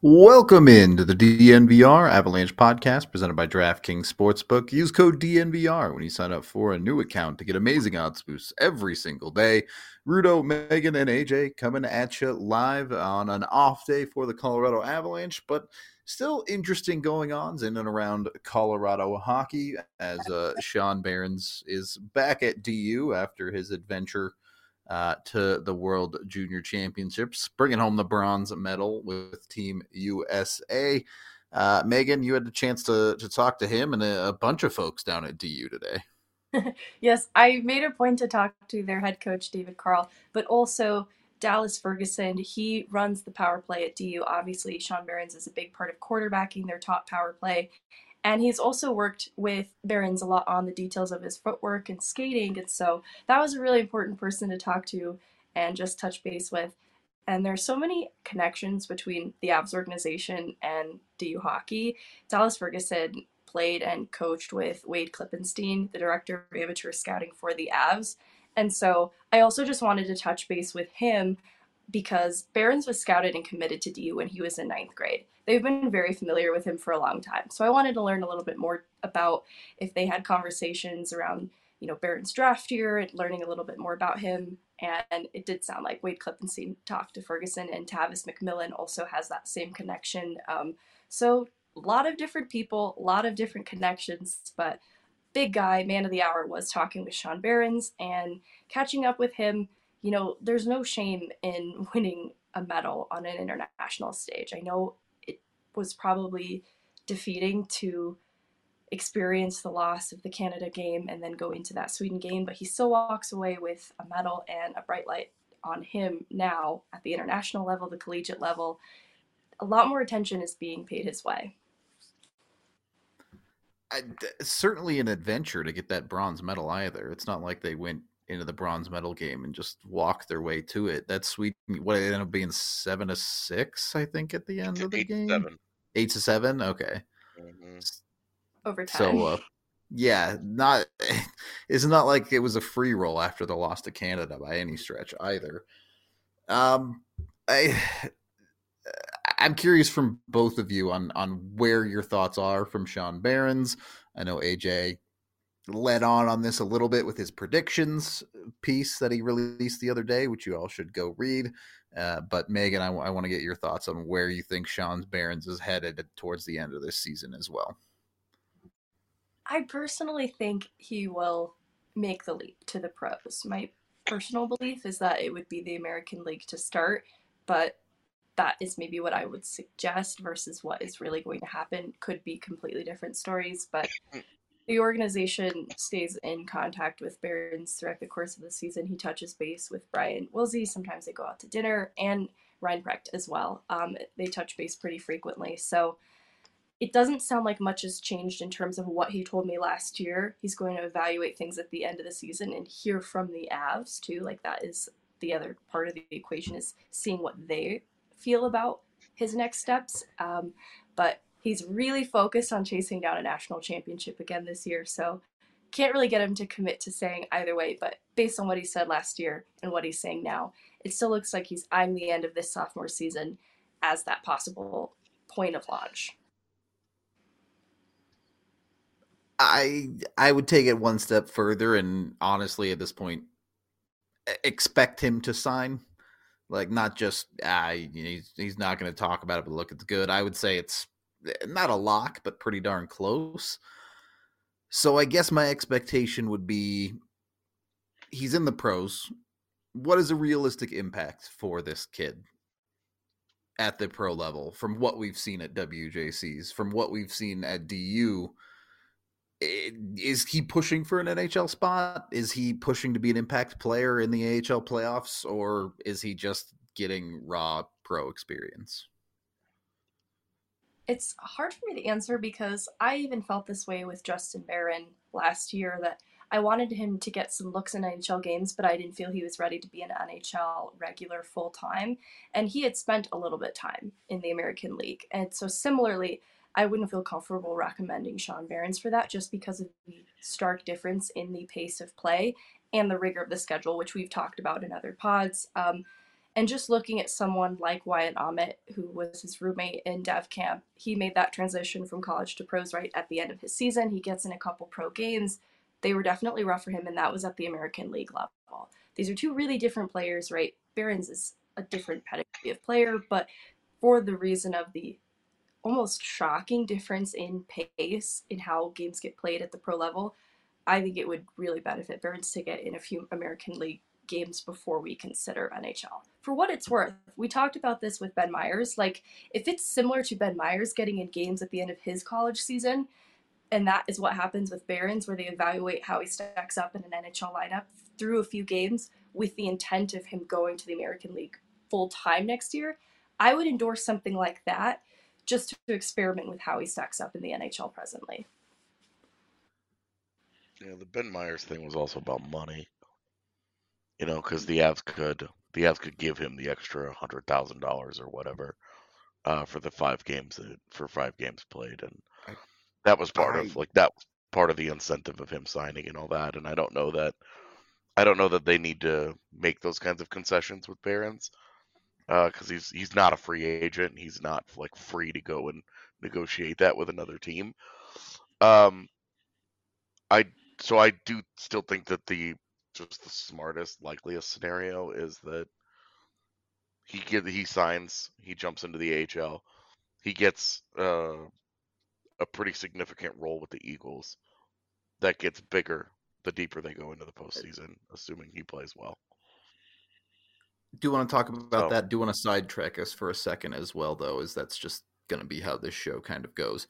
Welcome into the DNVR Avalanche podcast presented by DraftKings Sportsbook. Use code DNVR when you sign up for a new account to get amazing odds boosts every single day. Rudo, Megan, and AJ coming at you live on an off day for the Colorado Avalanche, but still interesting going-ons in and around Colorado hockey as Sean Behrens is back at DU after his adventure to the World Junior Championships, bringing home the bronze medal with Team USA. Megan, you had the chance to talk to him and a bunch of folks down at DU today. Yes, I made a point to talk to their head coach, David Carl, but also Dallas Ferguson. He runs the power play at DU. Obviously, Sean Behrens is a big part of quarterbacking their top power play. And he's also worked with Behrens a lot on the details of his footwork and skating. And so that was a really important person to talk to and just touch base with. And there's so many connections between the Avs organization and DU hockey. Dallas Ferguson played and coached with Wade Klippenstein, the director of amateur scouting for the Avs. And so I also just wanted to touch base with him because Behrens was scouted and committed to DU when he was in ninth grade. They've been very familiar with him for a long time. So I wanted to learn a little bit more about if they had conversations around, Behrens' draft year and learning a little bit more about him. And it did sound like Wade Klippenstein talked to Ferguson, and Tavis McMillan also has that same connection. So a lot of different people, a lot of different connections, but big guy, man of the hour, was talking with Sean Behrens and catching up with him. There's no shame in winning a medal on an international stage. I know it was probably defeating to experience the loss of the Canada game and then go into that Sweden game, but he still walks away with a medal and a bright light on him now at the international level, the collegiate level. A lot more attention is being paid his way. Certainly an adventure to get that bronze medal either. It's not like they went into the bronze medal game and just walked their way to it. That Sweden, what it ended up being 7-6, I think, at the end of the game. 8-7. Okay. Mm-hmm. Overtime. So, yeah, it's not like it was a free roll after the loss to Canada by any stretch either. I I'm curious from both of you on where your thoughts are from Sean Behrens. I know AJ led on this a little bit with his predictions piece that he released the other day, which you all should go read. But Megan, I want to get your thoughts on where you think Sean Behrens is headed towards the end of this season as well. I personally think he will make the leap to the pros. My personal belief is that it would be the American League to start, but that is maybe what I would suggest versus what is really going to happen. Could be completely different stories, but the organization stays in contact with Behrens throughout the course of the season. He touches base with Brian Wilsey. Sometimes they go out to dinner, and Ryan Precht as well. They touch base pretty frequently. So it doesn't sound like much has changed in terms of what he told me last year. He's going to evaluate things at the end of the season and hear from the Avs too. Like, that is the other part of the equation, is seeing what they feel about his next steps. But he's really focused on chasing down a national championship again this year. So can't really get him to commit to saying either way. But based on what he said last year and what he's saying now, it still looks like he's eyeing the end of this sophomore season as that possible point of launch. I would take it one step further, and honestly, at this point, expect him to sign. Like, not just he's not going to talk about it, but look, it's good. I would say it's not a lock, but pretty darn close. So I guess my expectation would be he's in the pros. What is a realistic impact for this kid at the pro level from what we've seen at WJCs, from what we've seen at DU? Is he pushing for an NHL spot? Is he pushing to be an impact player in the AHL playoffs, or is he just getting raw pro experience? It's hard for me to answer because I even felt this way with Justin Barron last year, that I wanted him to get some looks in NHL games, but I didn't feel he was ready to be an NHL regular full time. And he had spent a little bit of time in the American League. And so similarly, I wouldn't feel comfortable recommending Sean Behrens for that, just because of the stark difference in the pace of play and the rigor of the schedule, which we've talked about in other pods. And just looking at someone like Wyatt Ahmet, who was his roommate in dev camp, he made that transition from college to pros right at the end of his season. He gets in a couple pro games. They were definitely rough for him, and that was at the American League level. These are two really different players, right? Behrens is a different pedigree of player, but for the reason of the almost shocking difference in pace in how games get played at the pro level, I think it would really benefit Behrens to get in a few American League games before we consider NHL. For what it's worth, we talked about this with Ben Meyers. Like, if it's similar to Ben Meyers getting in games at the end of his college season, and that is what happens with Behrens, where they evaluate how he stacks up in an NHL lineup through a few games with the intent of him going to the American League full time next year, I would endorse something like that just to experiment with how he stacks up in the NHL presently. Yeah, the Ben Meyers thing was also about money. Because the Avs could give him the extra $100,000 or whatever for the 5 games played, and I, that was part I of the incentive of him signing and all that. And I don't know that they need to make those kinds of concessions with Behrens, because he's not a free agent. He's not like free to go and negotiate that with another team. Um, I do still think that the smartest, likeliest scenario is that he signs, he jumps into the AHL, he gets a pretty significant role with the Eagles that gets bigger the deeper they go into the postseason, assuming he plays well. do want to talk about So, that. Do want to sidetrack us for a second as well, though, as that's just going to be how this show kind of goes.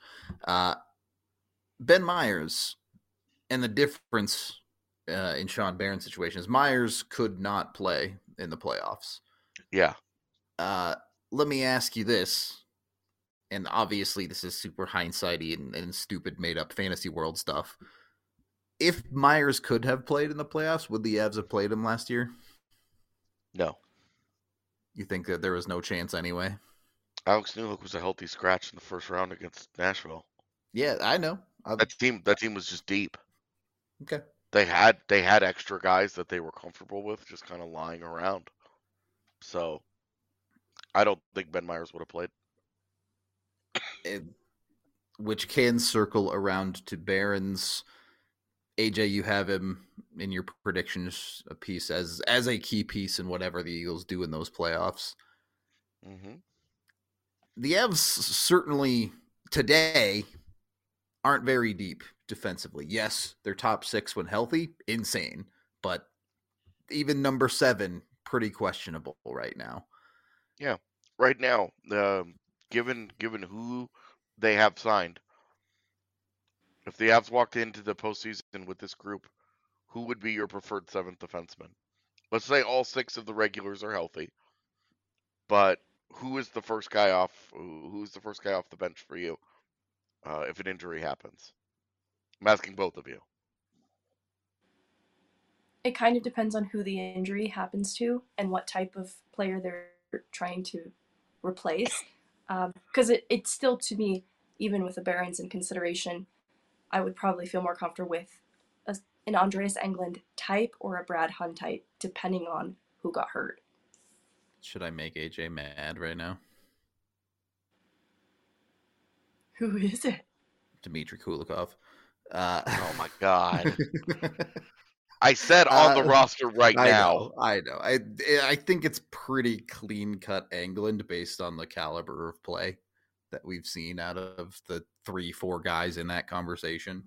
Ben Meyers and the difference in Sean Behrens' situation is Meyers could not play in the playoffs. yeah. Let me ask you this, and obviously this is super hindsighty and stupid made up fantasy world stuff. If Meyers could have played in the playoffs, would the Avs have played him last year? No. You think that there was no chance anyway? Alex Newhook was a healthy scratch in the first round against Nashville. Yeah, I know. That team was just deep. Okay. They had extra guys that they were comfortable with just kind of lying around. So I don't think Ben Meyers would have played. Which can circle around to Behrens. AJ, you have him in your predictions a piece as a key piece in whatever the Eagles do in those playoffs. Mm-hmm. The Avs certainly today aren't very deep defensively. Yes, they're top 6 when healthy, insane, but even number 7, pretty questionable right now. Yeah, right now, given who they have signed, if the Avs walked into the postseason with this group, who would be your preferred 7th defenseman? Let's say all 6 of the regulars are healthy, but who's the first guy off the bench for you if an injury happens? I'm asking both of you. It kind of depends on who the injury happens to and what type of player they're trying to replace. Because it's still, to me, even with the Barons in consideration, I would probably feel more comfortable with an Andreas Englund type or a Brad Hunt type, depending on who got hurt. Should I make AJ mad right now? Who is it? Dmitry Kulikov. Oh my God. I said on the roster right now. I know. I think it's pretty clean cut Englund based on the caliber of play that we've seen out of the 3-4 guys in that conversation.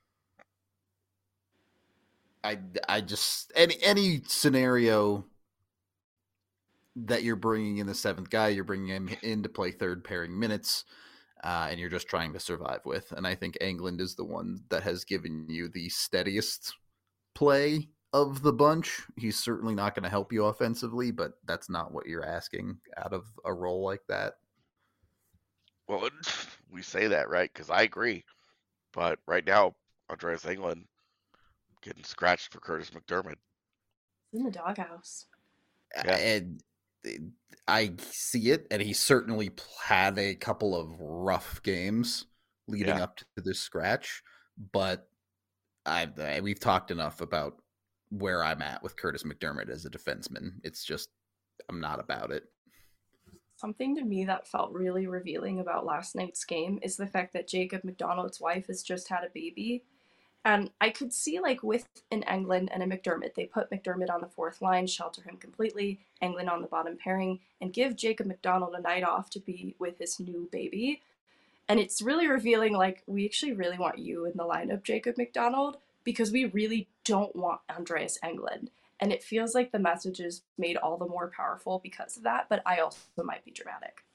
I just any scenario that you're bringing in the 7th guy, you're bringing him in to play third pairing minutes, and you're just trying to survive with. And I think Englund is the one that has given you the steadiest play of the bunch. He's certainly not going to help you offensively, but that's not what you're asking out of a role like that. Well, we say that, right? Because I agree. But right now, Andreas Englund getting scratched for Curtis McDermott. In the doghouse. Yeah. And I see it, and he certainly had a couple of rough games leading up to this scratch, but we've talked enough about where I'm at with Curtis McDermott as a defenseman. It's just I'm not about it. Something to me that felt really revealing about last night's game is the fact that Jacob McDonald's wife has just had a baby. And I could see, like, with an England and a McDermott, they put McDermott on the fourth line, shelter him completely, England on the bottom pairing, and give Jacob McDonald a night off to be with his new baby. And it's really revealing, like, we actually really want you in the lineup, Jacob McDonald, because we really don't want Andreas Englund. And it feels like the message is made all the more powerful because of that, but I also might be dramatic.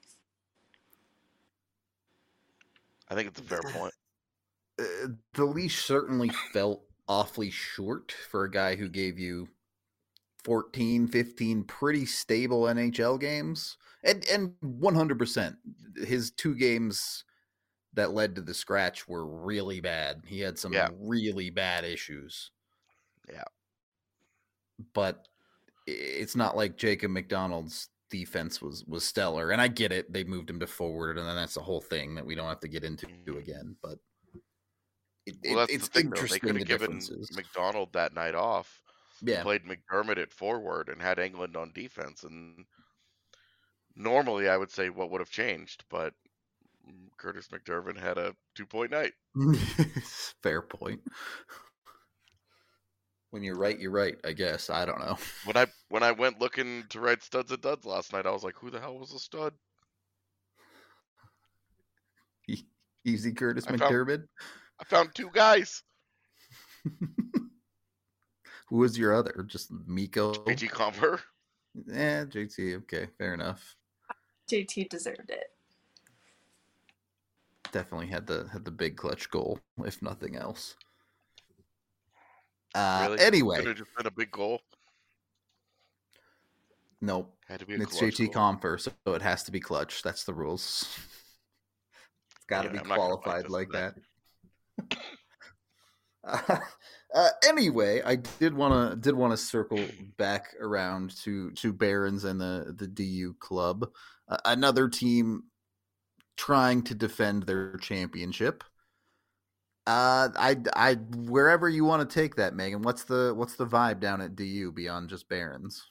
I think it's a fair point. The leash certainly felt awfully short for a guy who gave you 14, 15 pretty stable NHL games. And 100%, his 2 games that led to the scratch were really bad. He had some really bad issues. Yeah. But it's not like Jacob McDonald's defense was stellar. And I get it. They moved him to forward, and then that's the whole thing that we don't have to get into again. But that's it's the thing, interesting, though. They could have given differences. McDonald that night off. Yeah. Played McDermott at forward and had Englund on defense. And normally I would say what would have changed, but Curtis McDermott had a 2-point night. Fair point. When you're right, I guess. I don't know. When I went looking to write studs and duds last night, I was like, who the hell was a stud? Easy Curtis McDermott? I found 2 guys. Who was your other? Just Mikko? JT Compher. JT. Okay, fair enough. JT deserved it. Definitely had the big clutch goal, if nothing else. Really? Anyway, Could have just been a big goal. Nope. Had to be a it's clutch JT goal. Compher, so it has to be clutch. That's the rules. It's got to be qualified like that. Anyway, I did want to circle back around to Barons and the DU club, another team trying to defend their championship. I wherever you want to take that, Megan. What's the vibe down at DU beyond just Barons?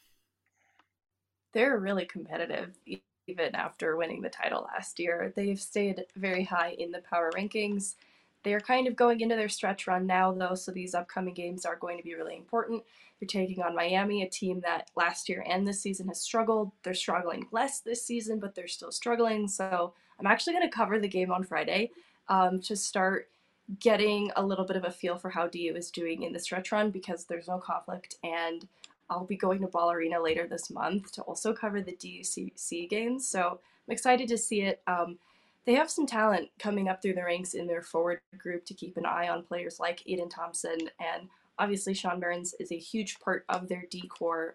They're really competitive, even after winning the title last year. They've stayed very high in the power rankings. They're kind of going into their stretch run now, though, so these upcoming games are going to be really important. They're taking on Miami, a team that last year and this season has struggled. They're struggling less this season, but they're still struggling. So I'm actually going to cover the game on Friday to start getting a little bit of a feel for how DU is doing in the stretch run, because there's no conflict, and I'll be going to Ball Arena later this month to also cover the DUCC games. So I'm excited to see it. They have some talent coming up through the ranks in their forward group to keep an eye on players like Aiden Thompson, and obviously Sean Barons is a huge part of their D-core.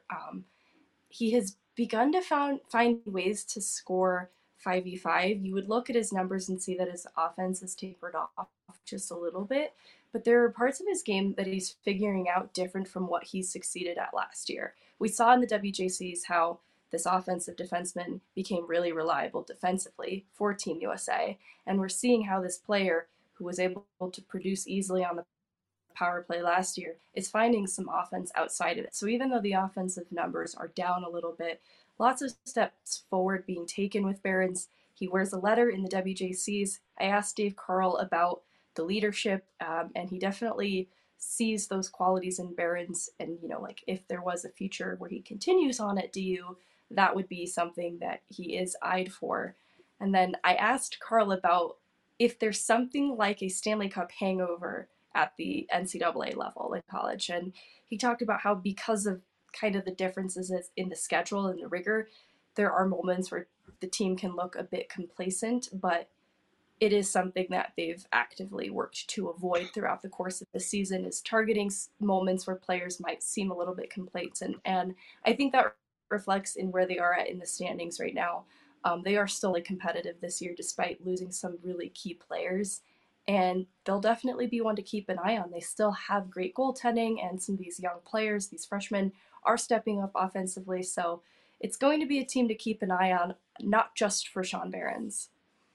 He has begun to find ways to score 5v5. You would look at his numbers and see that his offense has tapered off just a little bit, but there are parts of his game that he's figuring out different from what he succeeded at last year. We saw in the WJCs how this offensive defenseman became really reliable defensively for Team USA, and we're seeing how this player, who was able to produce easily on the power play last year, is finding some offense outside of it. So even though the offensive numbers are down a little bit, lots of steps forward being taken with Barons. He wears a letter in the WJCs. I asked Dave Carl about the leadership, and he definitely sees those qualities in Barons. And, you know, like if there was a future where he continues on at DU, that would be something that he is eyed for. And then I asked Carl about if there's something like a Stanley Cup hangover at the NCAA level in college. And he talked about how, because of kind of the differences in the schedule and the rigor, there are moments where the team can look a bit complacent, but it is something that they've actively worked to avoid throughout the course of the season, is targeting moments where players might seem a little bit complacent. And I think that reflects in where they are at in the standings right now. They are still competitive this year despite losing some really key players, and they'll definitely be one to keep an eye on. They still have great goaltending, and some of these young players, these freshmen, are stepping up offensively. So it's going to be a team to keep an eye on, not just for Sean Barons.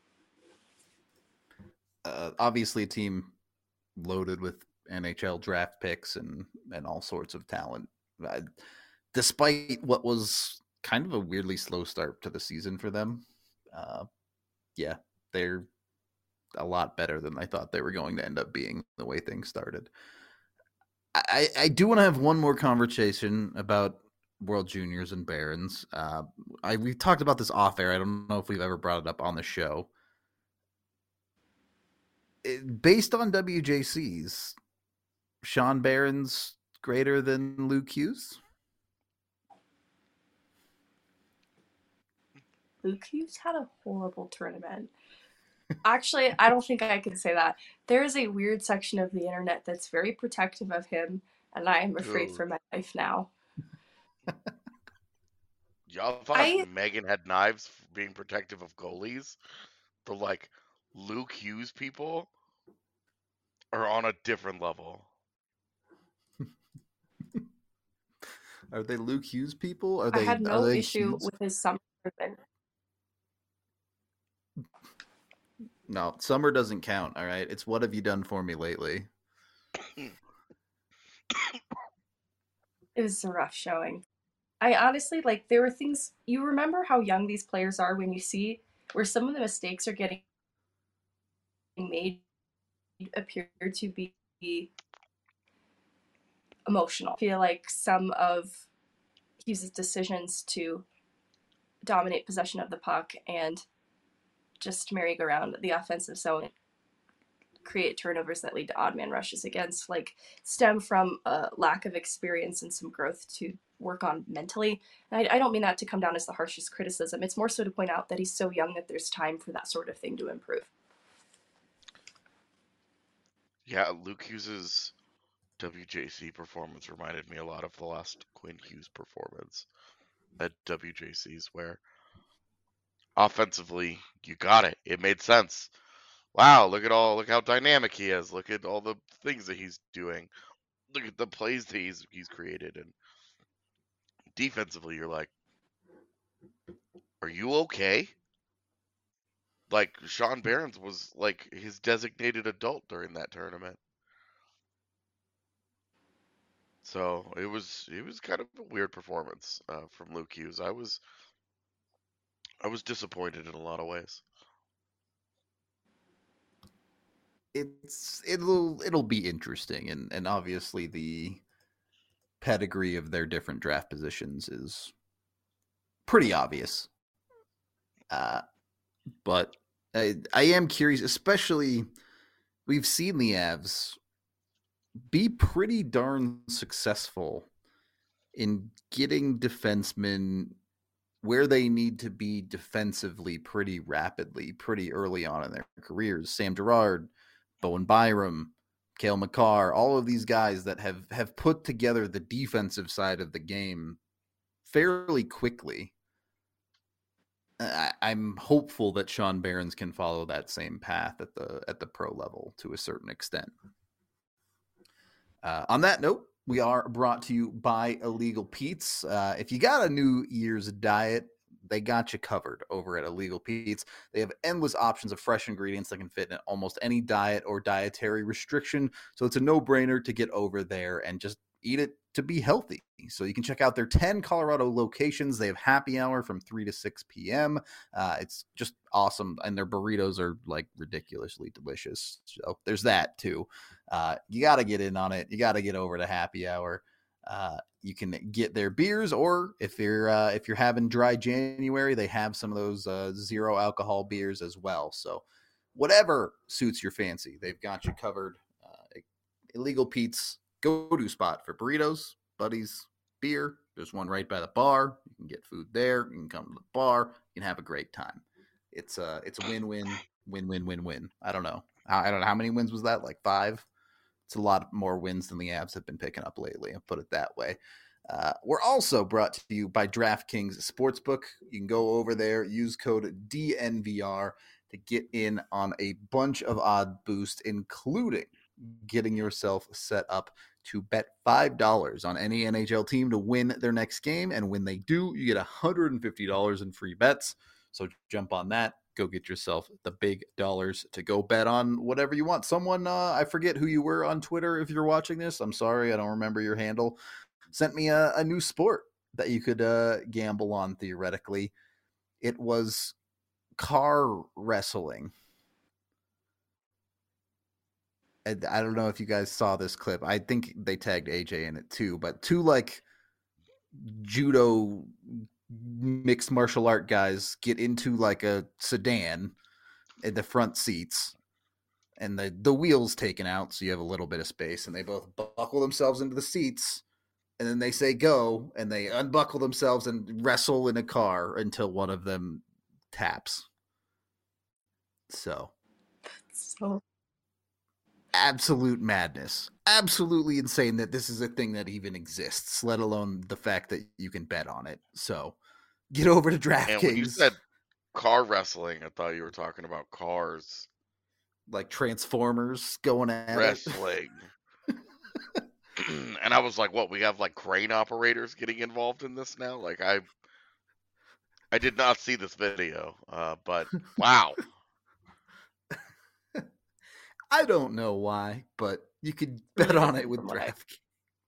Obviously a team loaded with NHL draft picks and all sorts of talent. Despite what was kind of a weirdly slow start to the season for them. Yeah, they're a lot better than I thought they were going to end up being the way things started. I do want to have one more conversation about World Juniors and Barons. We talked about this off air. I don't know if we've ever brought it up on the show. Based on WJCs, Sean Barron's greater than Luke Hughes? Luke Hughes had a horrible tournament. Actually, I don't think I can say that. There is a weird section of the internet that's very protective of him, and I am afraid for my life now. Y'all thought Megan had knives being protective of goalies? The like Luke Hughes people are on a different level. Are they Luke Hughes people? I had no issue with his summer tournament. No, summer doesn't count, all right? It's what have you done for me lately? It was a rough showing. I honestly, there were things, you remember how young these players are when you see where some of the mistakes are getting made appear to be emotional. I feel like some of Hughes' decisions to dominate possession of the puck and just merry-go-round the offensive zone, create turnovers that lead to odd man rushes against, stem from a lack of experience and some growth to work on mentally. And I don't mean that to come down as the harshest criticism. It's more so to point out that he's so young that there's time for that sort of thing to improve. Yeah, Luke Hughes' WJC performance reminded me a lot of the last Quinn Hughes performance at WJCs, where offensively you got it. It made sense. Wow, look how dynamic he is. Look at all the things that he's doing. Look at the plays that he's created. And defensively, you're like, are you okay? Like, Sean Barons was like his designated adult during that tournament. So it was kind of a weird performance from Luke Hughes. I was disappointed in a lot of ways. It'll be interesting, and obviously the pedigree of their different draft positions is pretty obvious. But I am curious, especially we've seen the Avs be pretty darn successful in getting defensemen where they need to be defensively pretty rapidly, pretty early on in their careers. Sam Girard, Bowen Byram, Cale Makar, all of these guys that have put together the defensive side of the game fairly quickly. I'm hopeful that Sean Barons can follow that same path at the pro level to a certain extent. On that note, we are brought to you by Illegal Pete's. If you got a New Year's diet, they got you covered over at Illegal Pete's. They have endless options of fresh ingredients that can fit in almost any diet or dietary restriction. So it's a no-brainer to get over there and just eat it to be healthy. So you can check out their 10 Colorado locations. They have happy hour from 3 to 6 p.m. It's just awesome. And their burritos are ridiculously delicious. So there's that too. You got to get in on it. You got to get over to happy hour. You can get their beers, or if you're having dry January, they have some of those zero alcohol beers as well. So whatever suits your fancy, they've got you covered. Illegal Pete's go-to spot for burritos, buddies, beer. There's one right by the bar. You can get food there. You can come to the bar. You can have a great time. It's a win-win. I don't know how many wins was that? 5. It's a lot more wins than the Avs have been picking up lately. I'll put it that way. We're also brought to you by DraftKings Sportsbook. You can go over there, use code DNVR to get in on a bunch of odd boosts, including getting yourself set up to bet $5 on any NHL team to win their next game. And when they do, you get $150 in free bets. So jump on that. Go get yourself the big dollars to go bet on whatever you want. Someone, I forget who you were on Twitter if you're watching this. I'm sorry, I don't remember your handle. Sent me a new sport. that you could gamble on theoretically. It was car wrestling. And I don't know if you guys saw this clip. I think they tagged AJ in it too, but two like judo mixed martial art guys get into like a sedan in the front seats and the wheels taken out so you have a little bit of space, and they both buckle themselves into the seats, and then they say go, and they unbuckle themselves and wrestle in a car until one of them taps. So absolute madness. Absolutely insane that this is a thing that even exists, let alone the fact that you can bet on it. So get over to DraftKings. And when you said car wrestling, I thought you were talking about cars. Like Transformers going at wrestling. And I was like, what, we have like crane operators getting involved in this now? Like I did not see this video, but wow. I don't know why, but you could bet on it with DraftKings.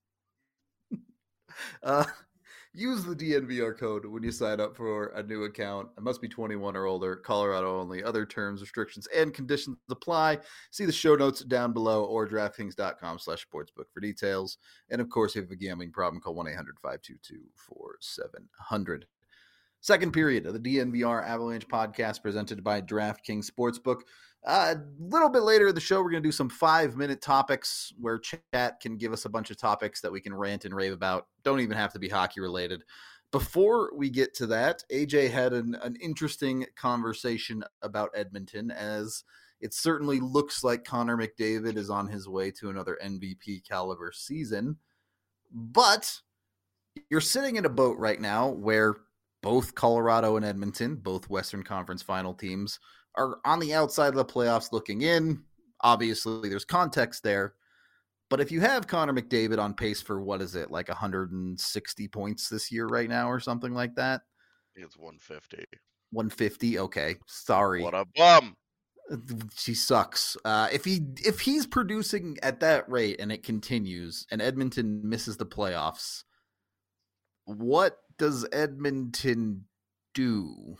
Use the DNVR code when you sign up for a new account. It must be 21 or older, Colorado only. Other terms, restrictions, and conditions apply. See the show notes down below or DraftKings.com/sportsbook for details. And of course, if you have a gambling problem, call 1-800-522-4700. Second period of the DNVR Avalanche podcast presented by DraftKings Sportsbook. A little bit later in the show, we're going to do some 5-minute topics where chat can give us a bunch of topics that we can rant and rave about. Don't even have to be hockey related. Before we get to that, AJ had an interesting conversation about Edmonton, as it certainly looks like Connor McDavid is on his way to another MVP caliber season. But you're sitting in a boat right now where both Colorado and Edmonton, both Western Conference final teams, are on the outside of the playoffs looking in. Obviously, there's context there. But if you have Connor McDavid on pace for, what is it, like 160 points this year right now or something like that? It's 150. 150? Okay. Sorry. What a bum. She sucks. If he's producing at that rate and it continues and Edmonton misses the playoffs, what does Edmonton do?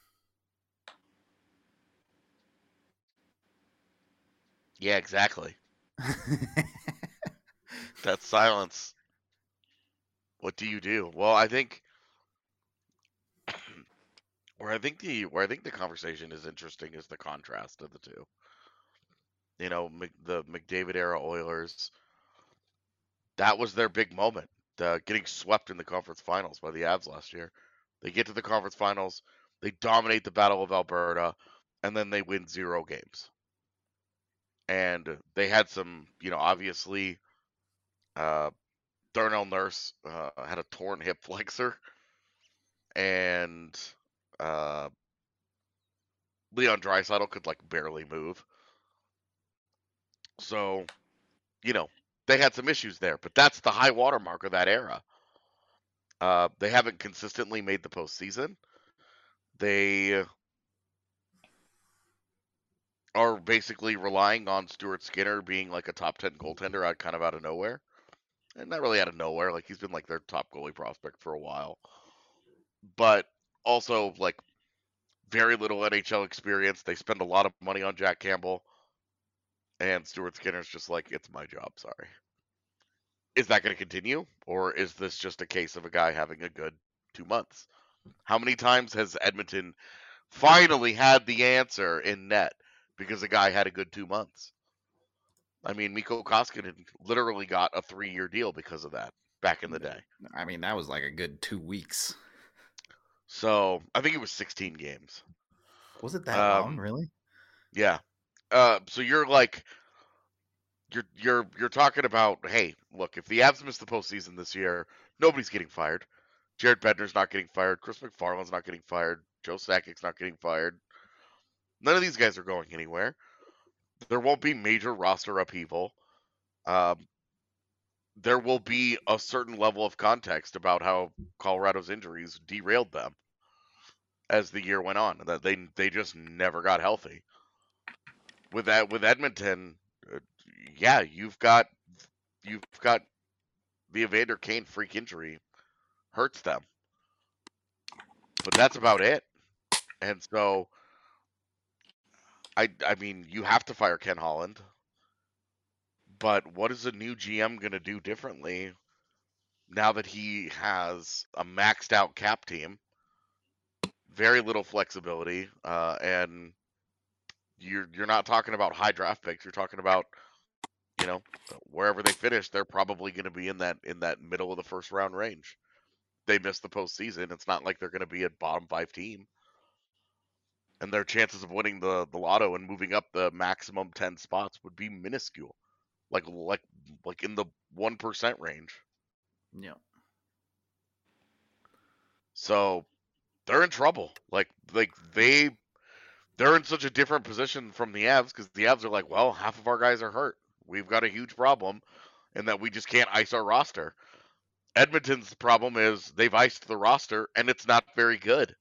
Yeah, exactly. That's silence. What do you do? Well, I think where I think the conversation is interesting is the contrast of the two. You know, the McDavid era Oilers, that was their big moment, getting swept in the conference finals by the Avs last year. They get to the conference finals, they dominate the Battle of Alberta, and then they win 0 games. And they had some, obviously, Darnell Nurse had a torn hip flexor, and Leon Draisaitl could barely move. So, they had some issues there, but that's the high watermark of that era. They haven't consistently made the postseason. They are basically relying on Stuart Skinner being like a top 10 goaltender out of nowhere. And not really out of nowhere. He's been their top goalie prospect for a while. But also very little NHL experience. They spend a lot of money on Jack Campbell. And Stuart Skinner's just it's my job, sorry. Is that going to continue? Or is this just a case of a guy having a good 2 months? How many times has Edmonton finally had the answer in net because a guy had a good 2 months? I mean, Mikko Koskinen literally got a 3-year deal because of that back in the day. I mean, that was a good 2 weeks. So I think it was 16 games. Was it that long, really? Yeah. So you're you're talking about, hey, look, if the Avs miss the postseason this year, nobody's getting fired. Jared Bednar's not getting fired. Chris McFarland's not getting fired. Joe Sakic's not getting fired. None of these guys are going anywhere. There won't be major roster upheaval. There will be a certain level of context about how Colorado's injuries derailed them as the year went on, that they just never got healthy. With Edmonton, yeah, you've got the Evander Kane freak injury hurts them. But that's about it. And so, I mean, you have to fire Ken Holland. But what is a new GM going to do differently now that he has a maxed out cap team, very little flexibility, and you're not talking about high draft picks. You're talking about, you know, wherever they finish, they're probably going to be in that middle of the first round range. They miss the postseason. It's not like they're going to be a bottom 5 team, and their chances of winning the lotto and moving up the maximum 10 spots would be minuscule, like in the 1% range. Yeah. So they're in trouble. Like they're in such a different position from the Avs, because the Avs are like, well, half of our guys are hurt. We've got a huge problem, and that we just can't ice our roster. Edmonton's problem is they've iced the roster, and it's not very good.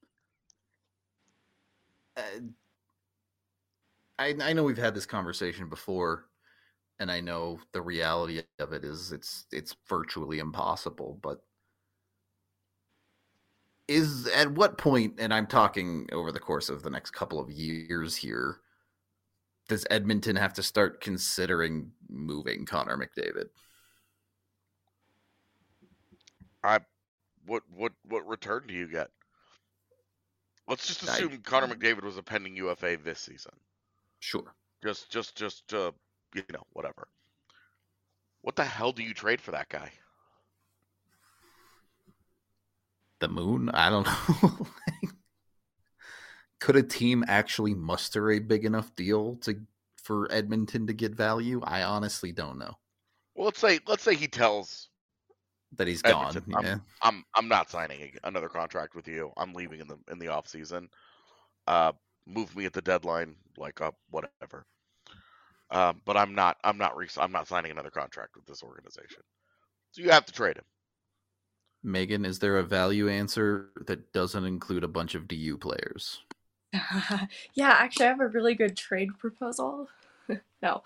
I know we've had this conversation before, and I know the reality of it is it's virtually impossible. But is at what point, and I'm talking over the course of the next couple of years here, does Edmonton have to start considering moving Connor McDavid? What return do you get? Let's just assume Connor McDavid was a pending UFA this season. Sure. Just whatever. What the hell do you trade for that guy? The moon? I don't know. Could a team actually muster a big enough deal for Edmonton to get value? I honestly don't know. Well, let's say he tells that he's Edmonton, gone. Yeah. I'm not signing another contract with you. I'm leaving in the off season. Move me at the deadline, whatever. But I'm not signing another contract with this organization. So you have to trade him. Megan, is there a value answer that doesn't include a bunch of DU players? Yeah, actually, I have a really good trade proposal. No.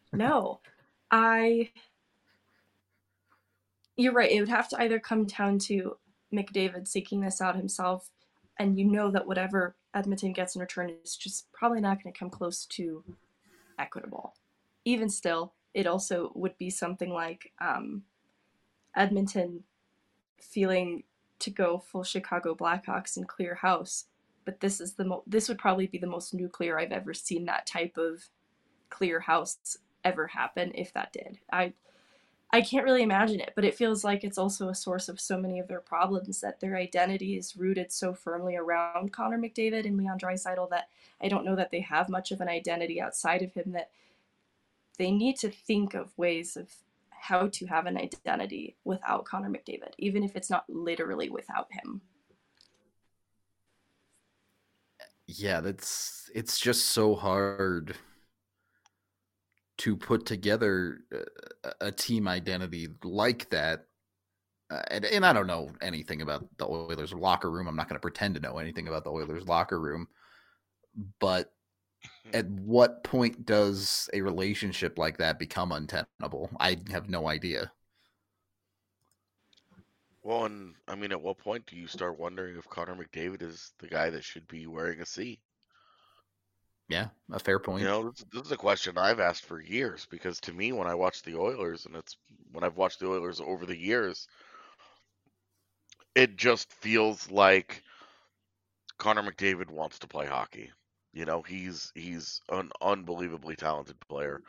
You're right. It would have to either come down to McDavid seeking this out himself, and you know that whatever Edmonton gets in return is just probably not going to come close to equitable. Even still, it also would be something like Edmonton feeling to go full Chicago Blackhawks and clear house, but this would probably be the most nuclear I've ever seen that type of clear house ever happen, if that did. I can't really imagine it, but it feels like it's also a source of so many of their problems, that their identity is rooted so firmly around Connor McDavid and Leon Draisaitl that I don't know that they have much of an identity outside of him, that they need to think of ways of how to have an identity without Connor McDavid, even if it's not literally without him. Yeah, it's just so hard to put together a team identity like that. And I don't know anything about the Oilers locker room. I'm not going to pretend to know anything about the Oilers locker room. But at what point does a relationship like that become untenable? I have no idea. Well, and I mean, at what point do you start wondering if Connor McDavid is the guy that should be wearing a C? Yeah, a fair point. You know, this is a question I've asked for years, because to me, when I watch the Oilers, and when I've watched the Oilers over the years, it just feels like Connor McDavid wants to play hockey. You know, he's an unbelievably talented player.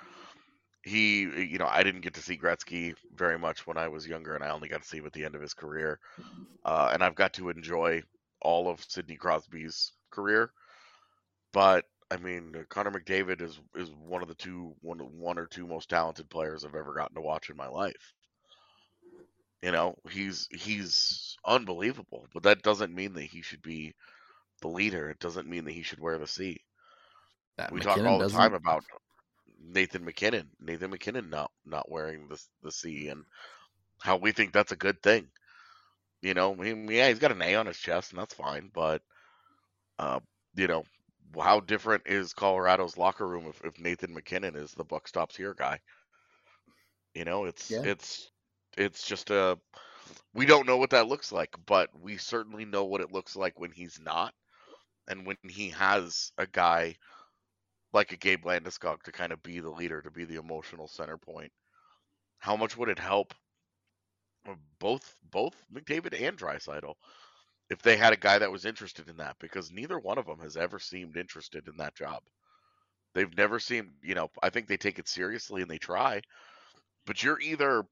I didn't get to see Gretzky very much when I was younger, and I only got to see him at the end of his career. And I've got to enjoy all of Sidney Crosby's career. But I mean, Connor McDavid is one of the one or two most talented players I've ever gotten to watch in my life. You know, he's unbelievable, but that doesn't mean that he should be the leader. It doesn't mean that he should wear the C. We talk all the time about Nathan MacKinnon. Nathan MacKinnon not wearing the C, and how we think that's a good thing. You know, yeah, he's got an A on his chest, and that's fine. But you know, how different is Colorado's locker room if Nathan MacKinnon is the buck stops here guy? You know, it's just we don't know what that looks like, but we certainly know what it looks like when he's not, and when he has a guy like a Gabe Landeskog to kind of be the leader, to be the emotional center point. How much would it help both McDavid and Draisaitl if they had a guy that was interested in that? Because neither one of them has ever seemed interested in that job. They've never seemed, I think they take it seriously and they try, but you're either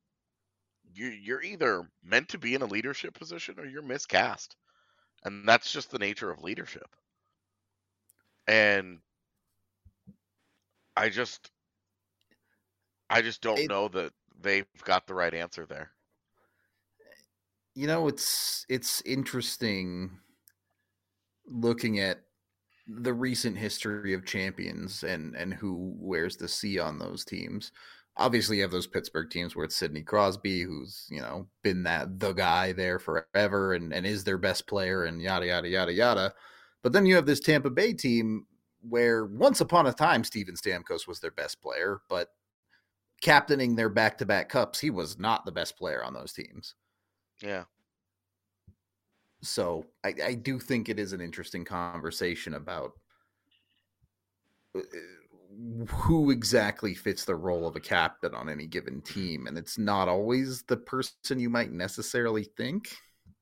meant to be in a leadership position or you're miscast. And that's just the nature of leadership. And I just don't know that they've got the right answer there. It's interesting looking at the recent history of champions and who wears the C on those teams. Obviously, you have those Pittsburgh teams where it's Sidney Crosby, who's been the guy there forever and is their best player and yada yada yada yada. But then you have this Tampa Bay team where once upon a time Steven Stamkos was their best player, but captaining their back-to-back cups, he was not the best player on those teams. Yeah. So I do think it is an interesting conversation about who exactly fits the role of a captain on any given team, and it's not always the person you might necessarily think.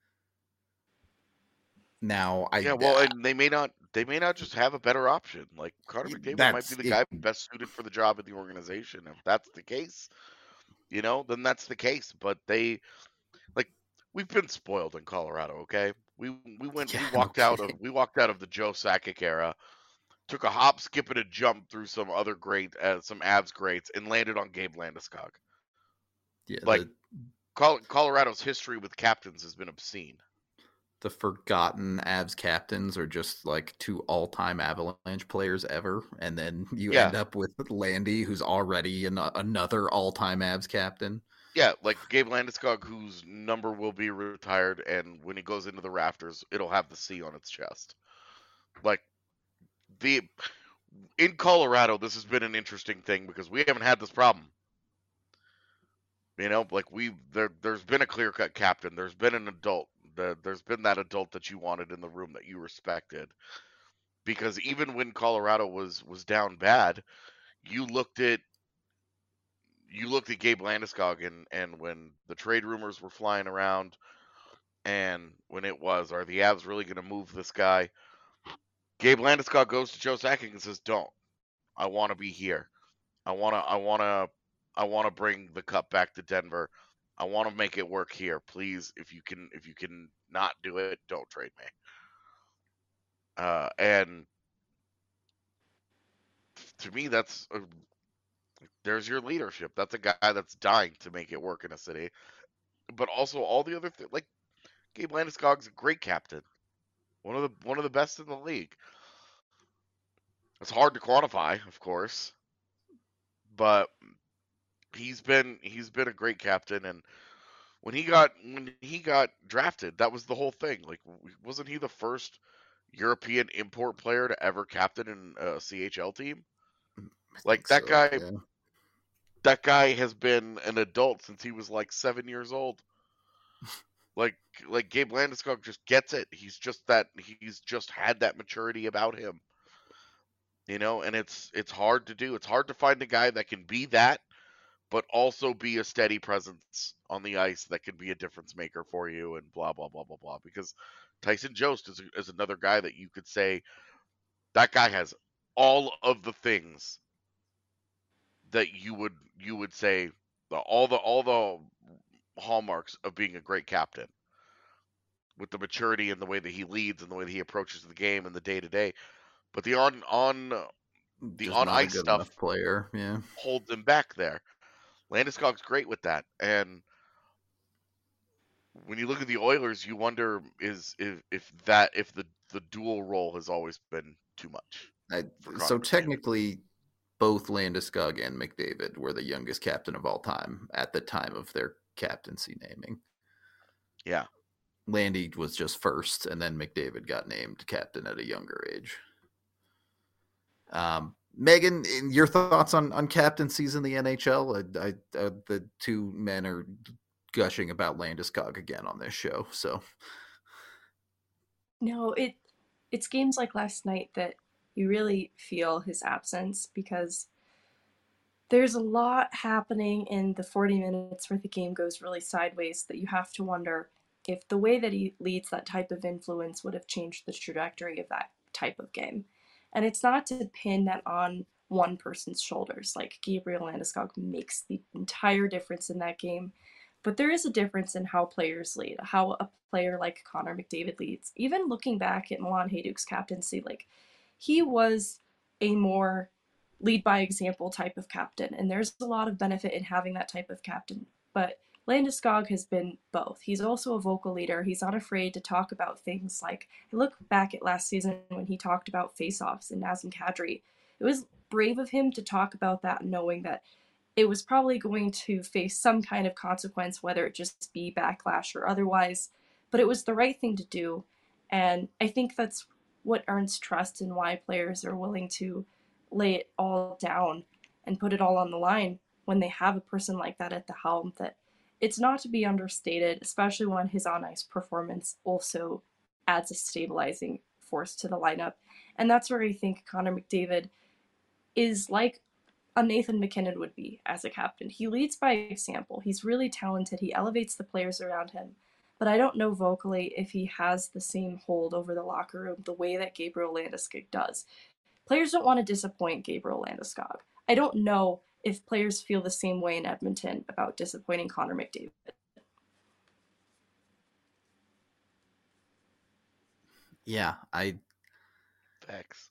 Now, and they may not just have a better option. Like Connor McDavid might be the guy best suited for the job in the organization. If that's the case, then that's the case. But we've been spoiled in Colorado. Okay, we walked out of the Joe Sakic era, took a hop, skip, and a jump through some other some Avs greats, and landed on Gabe Landeskog. Yeah, Colorado's history with captains has been obscene. The forgotten Avs captains are just like two all-time Avalanche players ever, and then you end up with Landy, who's already another all-time Avs captain. Yeah, like Gabe Landeskog, whose number will be retired, and when he goes into the rafters, it'll have the C on its chest. Like in Colorado, this has been an interesting thing because we haven't had this problem. There's been a clear-cut captain. There's been an adult. There's been that adult that you wanted in the room that you respected. Because even when Colorado was down bad, you looked at Gabe Landeskog and when the trade rumors were flying around, and when it was, are the Avs really going to move this guy? Gabe Landeskog goes to Joe Sakic and says, "Don't. I want to be here. I want to bring the cup back to Denver. I want to make it work here. Please, if you can not do it, don't trade me." And to me, there's your leadership. That's a guy that's dying to make it work in a city. But also all the other things, like Gabe Landeskog's a great captain, one of the best in the league. It's hard to quantify, of course, but he's been a great captain. And when he got drafted, that was the whole thing. Like, wasn't he the first European import player to ever captain in a CHL team? Like that guy. Yeah. That guy has been an adult since he was like 7 years old. like Gabe Landeskog just gets it. He's just had that maturity about him. And it's hard to do. It's hard to find a guy that can be that, but also be a steady presence on the ice that can be a difference maker for you and blah, blah, blah, blah, blah. Because Tyson Jost is another guy that you could say that guy has all of the things that you would say all the hallmarks of being a great captain, with the maturity and the way that he leads and the way that he approaches the game and the day-to-day. But the on ice stuff player, holds him back there. Landeskog's great with that. And when you look at the Oilers, you wonder if the dual role has always been too much. So technically, both Landeskog and McDavid were the youngest captain of all time at the time of their captaincy naming. Yeah. Landy was just first, and then McDavid got named captain at a younger age. Megan, your thoughts on captaincies in the NHL? The two men are gushing about Landeskog again on this show. So No, it's games like last night that you really feel his absence because there's a lot happening in the 40 minutes where the game goes really sideways that you have to wonder if the way that he leads that type of influence would have changed the trajectory of that type of game. And it's not to pin that on one person's shoulders. Like Gabriel Landeskog makes the entire difference in that game. But there is a difference in how players lead, how a player like Connor McDavid leads. Even looking back at Milan Hajduk's captaincy, like he was a more lead by example type of captain, and there's a lot of benefit in having that type of captain. But Landeskog has been both. He's also a vocal leader. He's not afraid to talk about things like, I look back at last season when he talked about face-offs and Nazem Kadri. It was brave of him to talk about that, knowing that it was probably going to face some kind of consequence, whether it just be backlash or otherwise. But it was the right thing to do. And I think that's what earns trust and why players are willing to lay it all down and put it all on the line when they have a person like that at the helm. That it's not to be understated, especially when his on-ice performance also adds a stabilizing force to the lineup. And that's where I think Connor McDavid is like a Nathan MacKinnon would be as a captain. He leads by example. He's really talented. He elevates the players around him. But I don't know vocally if he has the same hold over the locker room the way that Gabriel Landeskog does. Players don't want to disappoint Gabriel Landeskog. I don't know if players feel the same way in Edmonton about disappointing Connor McDavid. yeah, Facts.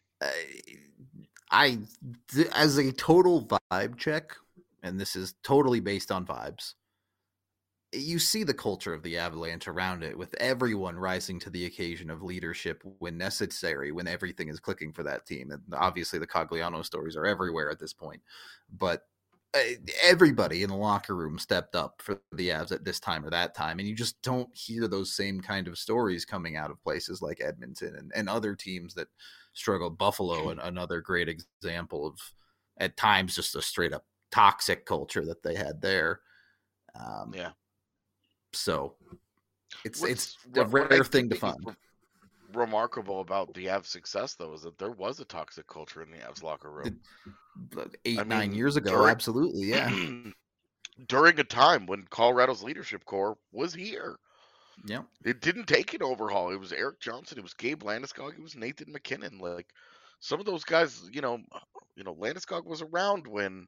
I as a total vibe check, and this is totally based on vibes, you see the culture of the Avalanche around it, with everyone rising to the occasion of leadership when necessary, when everything is clicking for that team. And obviously the Cogliano stories are everywhere at this point, but everybody in the locker room stepped up for the Avs at this time or that time. And you just don't hear those same kind of stories coming out of places like Edmonton and other teams that struggled. Buffalo, and another great example of, at times, just a straight up toxic culture that they had there. Yeah. So it's a what rare I thing to think is find. remarkable about the Avs' success, though, is that there was a toxic culture in the Avs locker room. 9 years ago, absolutely, yeah. During a time when Colorado's leadership core was here. Yeah. It didn't take an overhaul. It was Eric Johnson. It was Gabe Landeskog. It was Nathan MacKinnon. Like, some of those guys, Landeskog was around when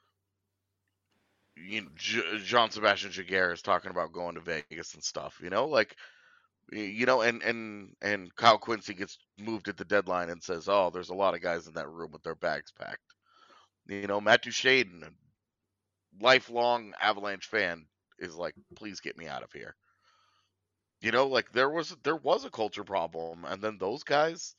Jean Sebastian Jaguar is talking about going to Vegas and stuff. And Kyle Quincy gets moved at the deadline and says, "Oh, there's a lot of guys in that room with their bags packed." Matt Duchene, lifelong Avalanche fan, is like, "Please get me out of here." There was a culture problem, and then those guys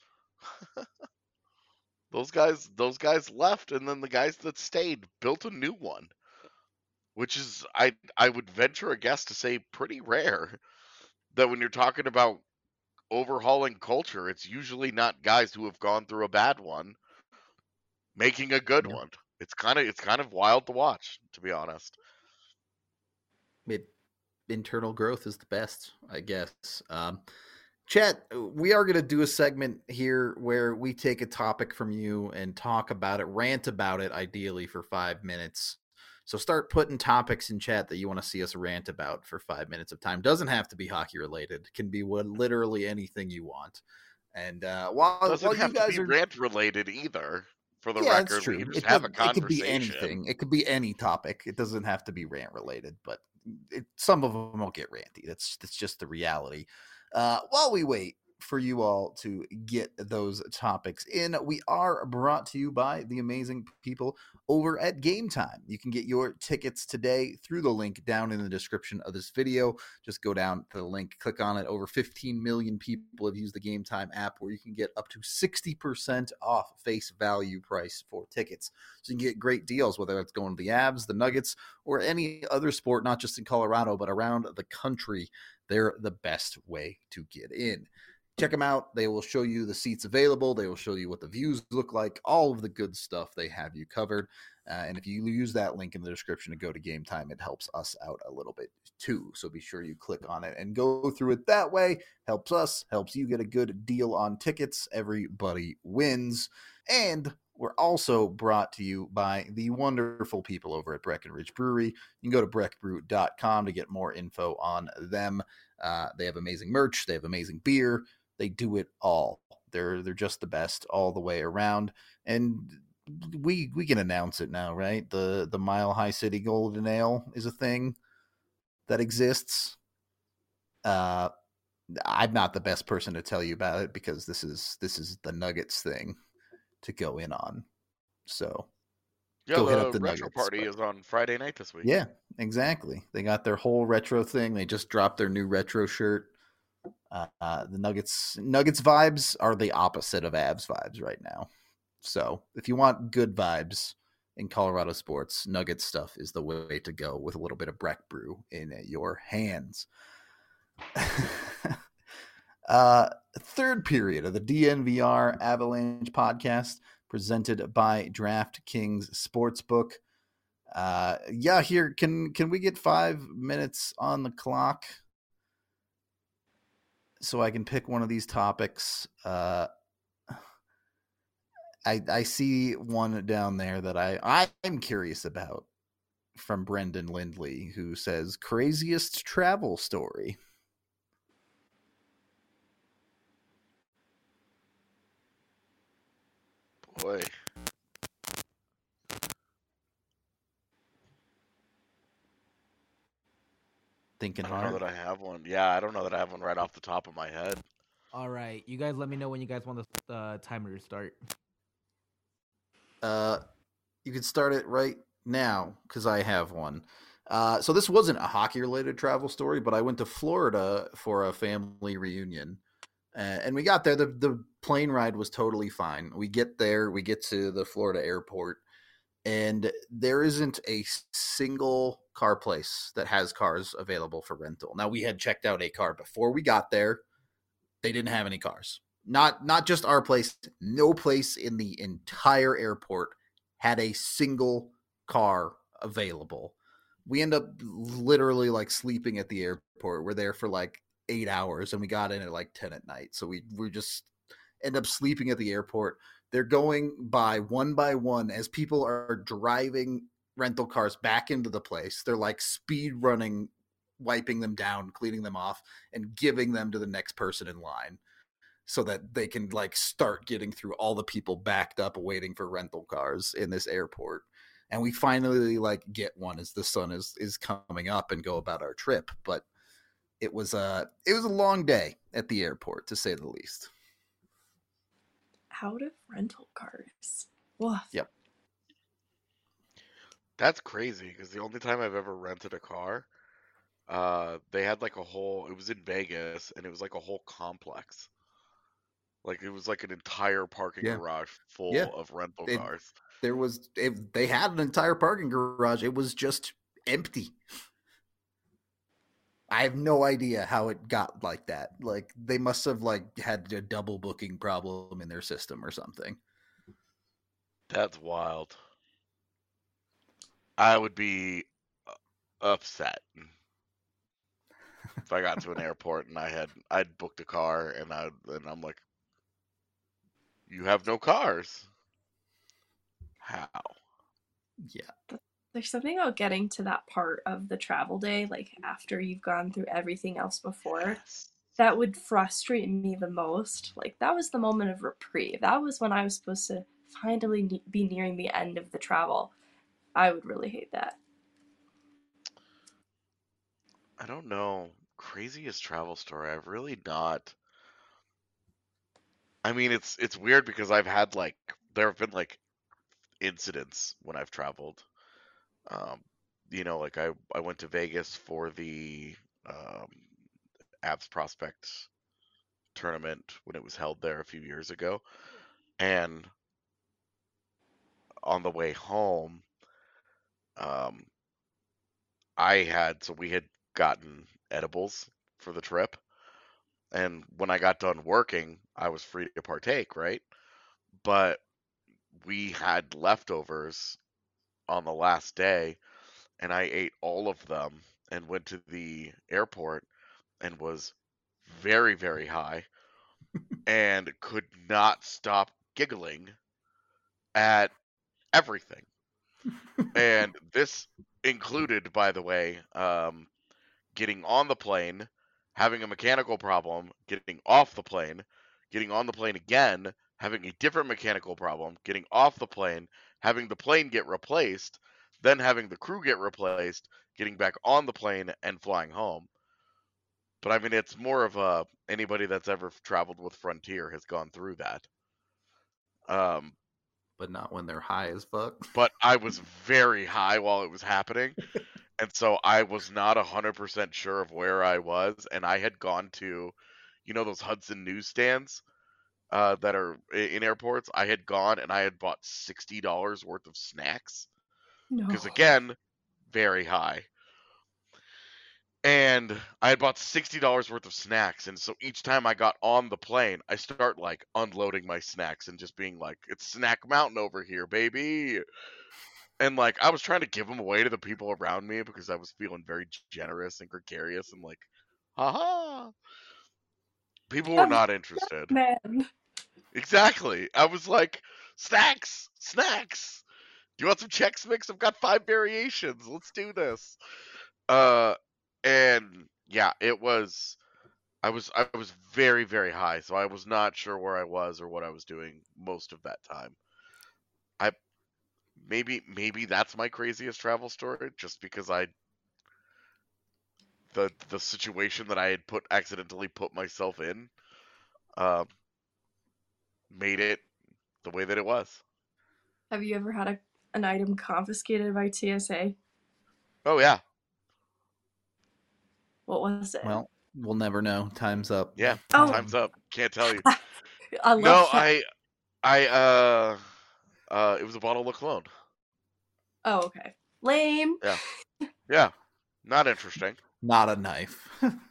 left, and then the guys that stayed built a new one, which is, I would venture a guess to say, pretty rare. That when you're talking about overhauling culture, it's usually not guys who have gone through a bad one making a good one. It's kind of wild to watch, to be honest. Internal growth is the best, I guess. Chet, we are going to do a segment here where we take a topic from you and talk about it, rant about it, ideally for 5 minutes. So start putting topics in chat that you want to see us rant about for 5 minutes of time. Doesn't have to be hockey related. It can be literally anything you want. And while doesn't have you guys to be are rant related either. For the record, it's true. we can just have a conversation. It could be anything. It could be any topic. It doesn't have to be rant related, but some of them will get ranty. That's just the reality. While we wait for you all to get those topics in, we are brought to you by the amazing people over at Game Time. You can get your tickets today through the link down in the description of this video. Just go down to the link, click on it. Over 15 million people have used the Game Time app, where you can get up to 60% off face value price for tickets. So you can get great deals, whether it's going to the Avs, the Nuggets, or any other sport, not just in Colorado, but around the country. They're the best way to get in. check them out. They will show you the seats available. They will show you what the views look like, all of the good stuff. They have you covered. And if you use that link in the description to go to Game Time, it helps us out a little bit too. So be sure you click on it and go through it that way. Helps us, helps you get a good deal on tickets. Everybody wins. And we're also brought to you by the wonderful people over at Breckenridge Brewery. You can go to breckbrew.com to get more info on them. They have amazing merch. They have amazing beer. They do it all. They're just the best all the way around. And we can announce it now, right? The Mile High City Golden Ale is a thing that exists. I'm not the best person to tell you about it because this is the Nuggets thing to go in on. So Yeah, go hit the up the retro Nuggets, party but- is on Friday night this week. Yeah, exactly. They got their whole retro thing. They just dropped their new retro shirt. The Nuggets vibes are the opposite of Avs vibes right now. So if you want good vibes in Colorado sports, Nuggets stuff is the way to go with a little bit of Breck Brew in your hands. Third period of the DNVR Avalanche podcast presented by DraftKings Sportsbook. Here, can we get 5 minutes on the clock so I can pick one of these topics? I see one down there that I'm curious about from Brendan Lindley, who says craziest travel story. Boy. Thinking I don't hard. know that I have one. Yeah, I don't know that I have one right off the top of my head. All right, you guys let me know when you guys want the timer to start. You can start it right now because I have one. So this wasn't a hockey-related travel story, but I went to Florida for a family reunion. And we got there. The plane ride was totally fine. We get there. We get to the Florida airport. And there isn't a single car place that has cars available for rental. Now, we had checked out a car before we got there. They didn't have any cars. Not just our place. No place in the entire airport had a single car available. We end up literally like sleeping at the airport. We're there for like 8 hours and we got in at like 10 at night. So we just end up sleeping at the airport. They're going by one as people are driving rental cars back into the place. They're like speed running, wiping them down, cleaning them off, and giving them to the next person in line so that they can like start getting through all the people backed up waiting for rental cars in this airport. And we finally like get one as the sun is coming up and go about our trip. But it was a long day at the airport, to say the least. Out of rental cars. Woof. Yep. That's crazy because the only time I've ever rented a car, they had like it was in Vegas and it was like a whole complex. Like it was like an entire parking garage full of rental cars. They had an entire parking garage. It was just empty. I have no idea how it got like that. Like they must have like had a double booking problem in their system or something. That's wild. I would be upset if I got to an airport and I'd booked a car and I'm like, you have no cars. How? Yeah. There's something about getting to that part of the travel day, like after you've gone through everything else before, that would frustrate me the most. Like that was the moment of reprieve. That was when I was supposed to finally be nearing the end of the travel. I would really hate that. I don't know. Craziest travel story. I've really not. I mean, it's weird because I've had like there have been like incidents when I've traveled. Like I went to Vegas for the Abs Prospect tournament when it was held there a few years ago, and on the way home, we had gotten edibles for the trip, And when I got done working, I was free to partake, right? But we had leftovers on the last day, and I ate all of them and went to the airport and was very, very high and could not stop giggling at everything. And this included, by the way, getting on the plane, having a mechanical problem, getting off the plane, getting on the plane again, having a different mechanical problem, getting off the plane, having the plane get replaced, then having the crew get replaced, getting back on the plane and flying home. But I mean, it's more of a anybody that's ever traveled with Frontier has gone through that. Um, But not when they're high as fuck. but I was very high while it was happening. And so I was not 100% sure of where I was. And I had gone to, those Hudson newsstands that are in airports. I had gone and I had bought $60 worth of snacks. No. Because again, very high. And I had bought $60 worth of snacks. And so each time I got on the plane, I start like unloading my snacks and just being like, it's Snack Mountain over here, baby. And like I was trying to give them away to the people around me because I was feeling very generous and gregarious and like, haha. People were not interested. Man. Exactly. I was like, snacks, snacks. Do you want some Chex Mix? I've got 5 variations. Let's do this. And yeah, I was very, very high, so I was not sure where I was or what I was doing most of that time. Maybe that's my craziest travel story, just because the situation that I had accidentally put myself in, uh, made it the way that it was. Have you ever had an item confiscated by TSA? Oh yeah, What was it? Well, we'll never know. Time's up. yeah. Oh. Time's up. Can't tell you. I love No, that. it was a bottle of cologne. Oh, okay. Lame. Yeah, not interesting. Not a knife.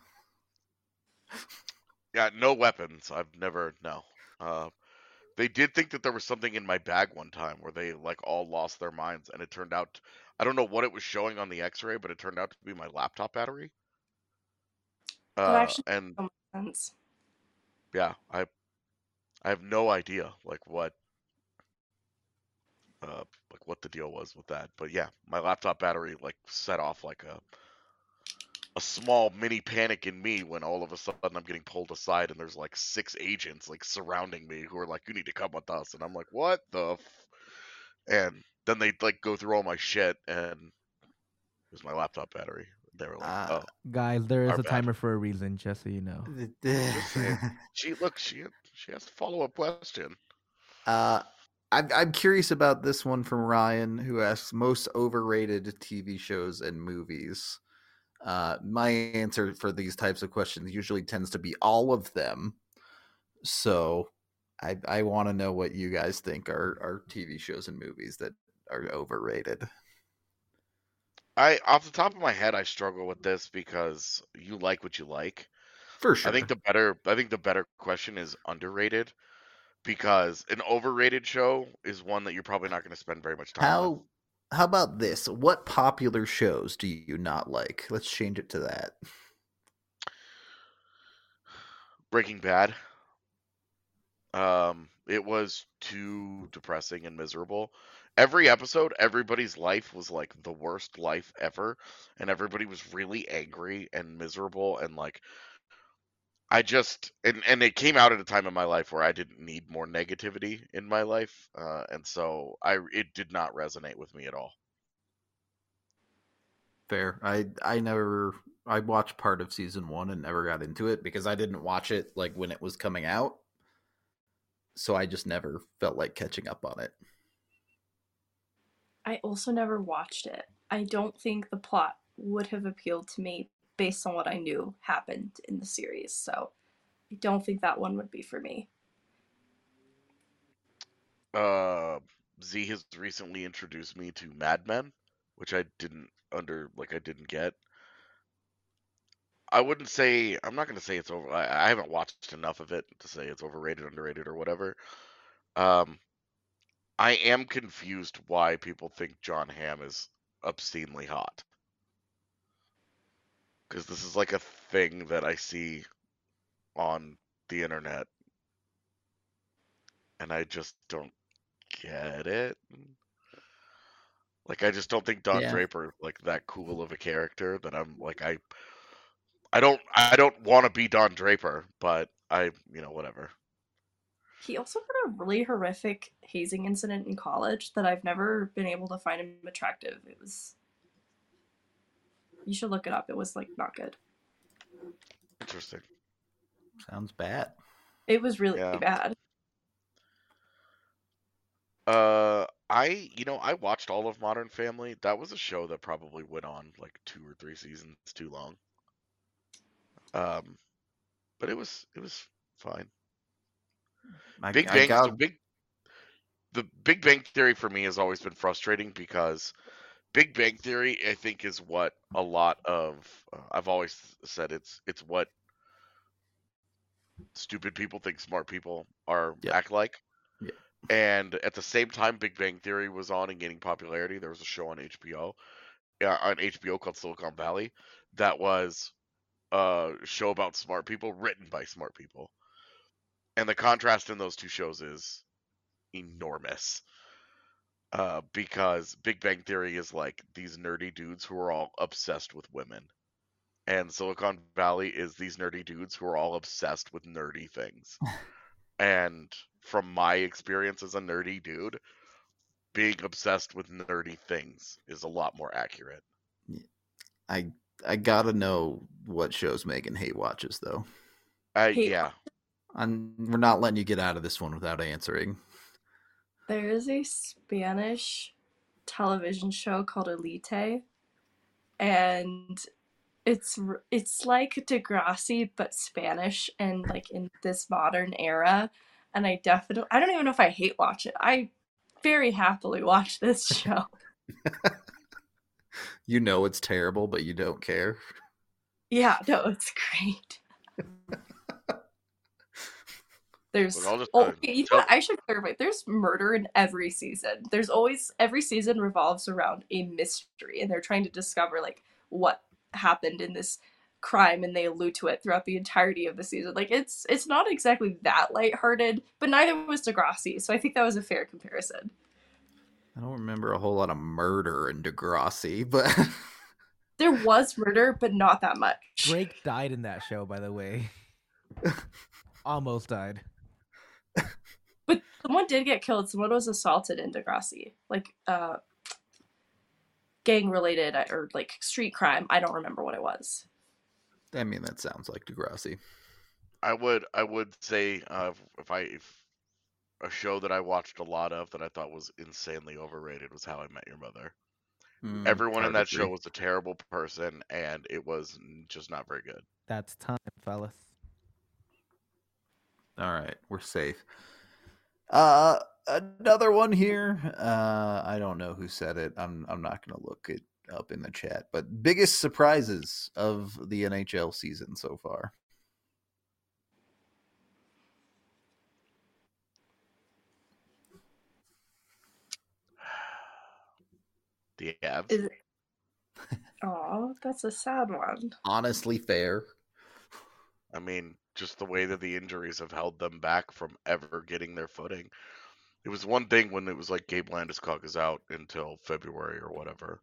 Yeah, no weapons. I've never no. They did think that there was something in my bag one time where they like all lost their minds, and it turned out I don't know what it was showing on the X-ray, but it turned out to be my laptop battery. That actually And makes so much sense. yeah, I have no idea like what the deal was with that. But yeah, my laptop battery like set off like a small mini panic in me when all of a sudden I'm getting pulled aside and there's like 6 agents like surrounding me who are like, you need to come with us, and I'm like, what the and then they like go through all my shit, and it was my laptop battery. They were like, oh, Guys, there is our a bad. timer for a reason, just so you know. Just saying. She has a follow-up question. I'm curious about this one from Ryan, who asks most overrated TV shows and movies. My answer for these types of questions usually tends to be all of them. So I want to know what you guys think are TV shows and movies that are overrated. Off the top of my head, I struggle with this because you like what you like. For sure. I think the better question is underrated, because an overrated show is one that you're probably not going to spend very much time with. How about this? What popular shows do you not like? Let's change it to that. Breaking Bad. It was too depressing and miserable. Every episode, everybody's life was like the worst life ever, and everybody was really angry and miserable, and like I just and it came out at a time in my life where I didn't need more negativity in my life, and so it did not resonate with me at all. Fair. I watched part of season 1 and never got into it because I didn't watch it like when it was coming out. So I just never felt like catching up on it. I also never watched it. I don't think the plot would have appealed to me based on what I knew happened in the series. So I don't think that one would be for me. Z has recently introduced me to Mad Men, which I didn't get. I wouldn't say, I'm not going to say it's over. I haven't watched enough of it to say it's overrated, underrated, or whatever. Um, I am confused why people think John Hamm is obscenely hot. Because this is like a thing that I see on the internet, and I just don't get it. Like, I just don't think Don Yeah. Draper like that cool of a character that I'm like I don't want to be Don Draper, but whatever. He also had a really horrific hazing incident in college that I've never been able to find him attractive. It was. You should look it up. It was like not good. Interesting. Sounds bad. It was really Yeah. bad. I watched all of Modern Family. That was a show that probably went on like 2 or 3 seasons too long. But it was fine. The Big Bang Theory for me has always been frustrating because Big Bang Theory, I think, is what a lot of I've always said it's what stupid people think smart people act like. Yep. And at the same time, Big Bang Theory was on and gaining popularity. There was a show on HBO called Silicon Valley that was a show about smart people written by smart people. And the contrast in those two shows is enormous. Because Big Bang Theory is like these nerdy dudes who are all obsessed with women. And Silicon Valley is these nerdy dudes who are all obsessed with nerdy things. And from my experience as a nerdy dude, being obsessed with nerdy things is a lot more accurate. I gotta know what shows Megan Hay watches, though. Yeah. We're not letting you get out of this one without answering. There is a Spanish television show called Elite, and it's like Degrassi but Spanish and like in this modern era. And I don't even know if I hate watch it. I very happily watch this show. You know it's terrible, but you don't care. Yeah, no, it's great. There's you know what? I should clarify. There's murder in every season. There's always every season revolves around a mystery, and they're trying to discover like what happened in this crime, and they allude to it throughout the entirety of the season. Like it's not exactly that lighthearted, but neither was Degrassi, so I think that was a fair comparison. I don't remember a whole lot of murder in Degrassi, but there was murder, but not that much. Drake died in that show, by the way. Almost died. But someone did get killed. Someone was assaulted in Degrassi. Like, gang-related or, like, street crime. I don't remember what it was. I mean, that sounds like Degrassi. I would say if a show that I watched a lot of that I thought was insanely overrated was How I Met Your Mother. Everyone in that show was a terrible person, and it was just not very good. That's time, fellas. All right, we're safe. Another one here. I don't know who said it. I'm not going to look it up in the chat. But biggest surprises of the NHL season so far. The Avs. Oh, that's a sad one. Honestly, fair. I mean, just the way that the injuries have held them back from ever getting their footing. It was one thing when it was like Gabe Landeskog is out until February or whatever.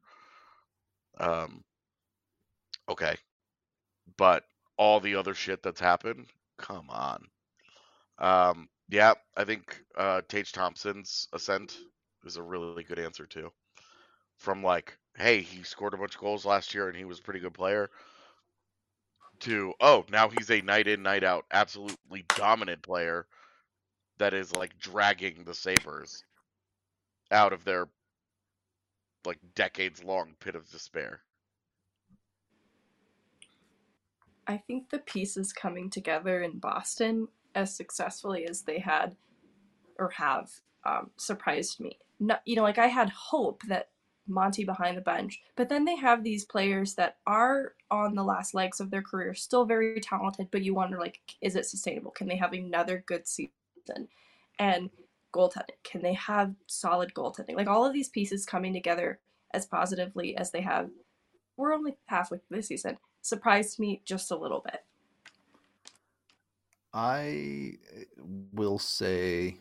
Okay. But all the other shit that's happened, come on. Yeah, I think Tage Thompson's ascent is a really good answer too. From like, hey, he scored a bunch of goals last year and he was a pretty good player, to, oh, now he's a night in, night out, absolutely dominant player that is like dragging the Sabres out of their like decades long pit of despair. I think the pieces coming together in Boston as successfully as they had or have surprised me. No, like I had hope that Monty behind the bench. But then they have these players that are on the last legs of their career, still very talented, but you wonder, like, is it sustainable? Can they have another good season? And goaltending, can they have solid goaltending? Like, all of these pieces coming together as positively as they have, we're only halfway through this season, surprised me just a little bit. I will say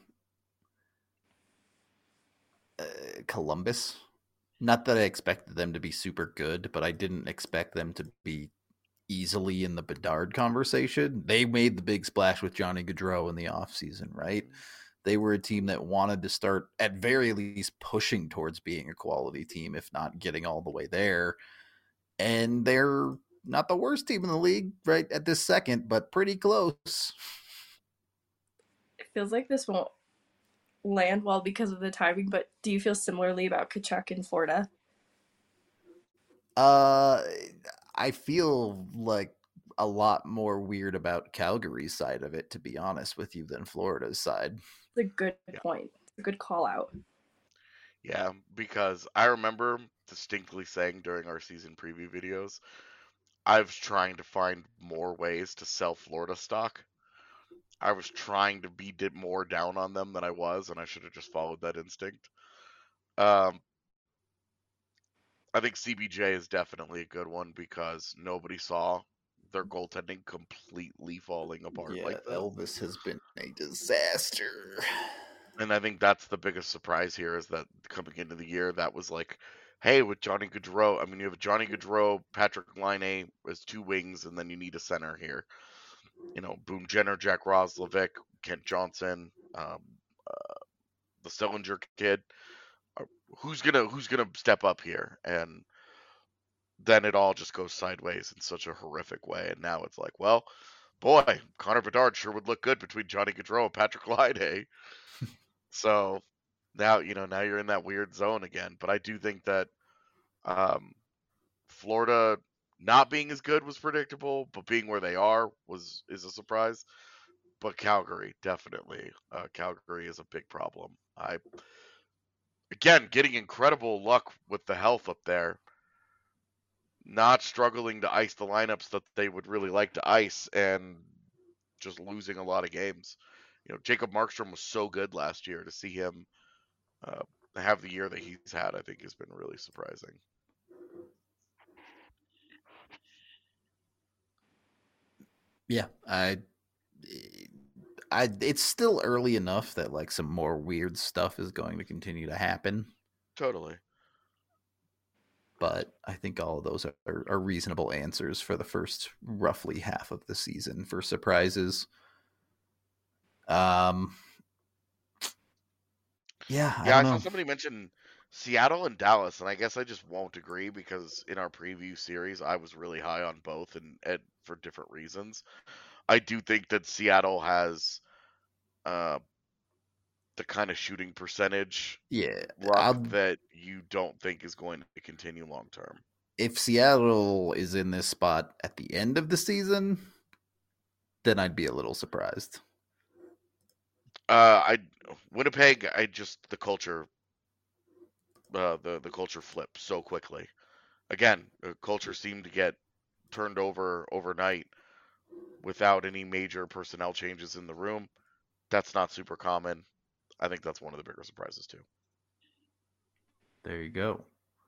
Columbus. Not that I expected them to be super good, but I didn't expect them to be easily in the Bedard conversation. They made the big splash with Johnny Gaudreau in the offseason, right? They were a team that wanted to start, at very least, pushing towards being a quality team, if not getting all the way there. And they're not the worst team in the league right at this second, but pretty close. It feels like this won't land well because of the timing, but do you feel similarly about Tkachuk in Florida? I feel like a lot more weird about Calgary's side of it, to be honest with you, than Florida's side. It's a good point. It's a good call out. Yeah, because I remember distinctly saying during our season preview videos, I was trying to find more ways to sell Florida stock. I was trying to be more down on them than I was, and I should have just followed that instinct. I think CBJ is definitely a good one because nobody saw their goaltending completely falling apart like that. Elvis has been a disaster. And I think that's the biggest surprise here is that coming into the year, that was like, hey, with Johnny Gaudreau, I mean, you have Johnny Gaudreau, Patrick Laine as two wings, and then you need a center here. You know, Boone Jenner, Jack Roslovic, Kent Johnson, the Sillinger kid. Who's gonna step up here? And then it all just goes sideways in such a horrific way. And now it's like, well, boy, Connor Bedard sure would look good between Johnny Gaudreau and Patrick Laine. So now you're in that weird zone again. But I do think that Florida not being as good was predictable, but being where they are is a surprise. But Calgary, definitely. Calgary is a big problem. Again, getting incredible luck with the health up there. Not struggling to ice the lineups that they would really like to ice and just losing a lot of games. You know, Jacob Markstrom was so good last year. To see him have the year that he's had, I think has been really surprising. Yeah, it's still early enough that like some more weird stuff is going to continue to happen. Totally. But I think all of those are reasonable answers for the first roughly half of the season for surprises. I saw somebody mention Seattle and Dallas, and I guess I just won't agree because in our preview series, I was really high on both and for different reasons. I do think that Seattle has the kind of shooting percentage that you don't think is going to continue long term. If Seattle is in this spot at the end of the season, then I'd be a little surprised. Winnipeg, the culture the culture flipped so quickly. Again, the culture seemed to get turned over overnight without any major personnel changes in the room. That's not super common. I think that's one of the bigger surprises too. There you go.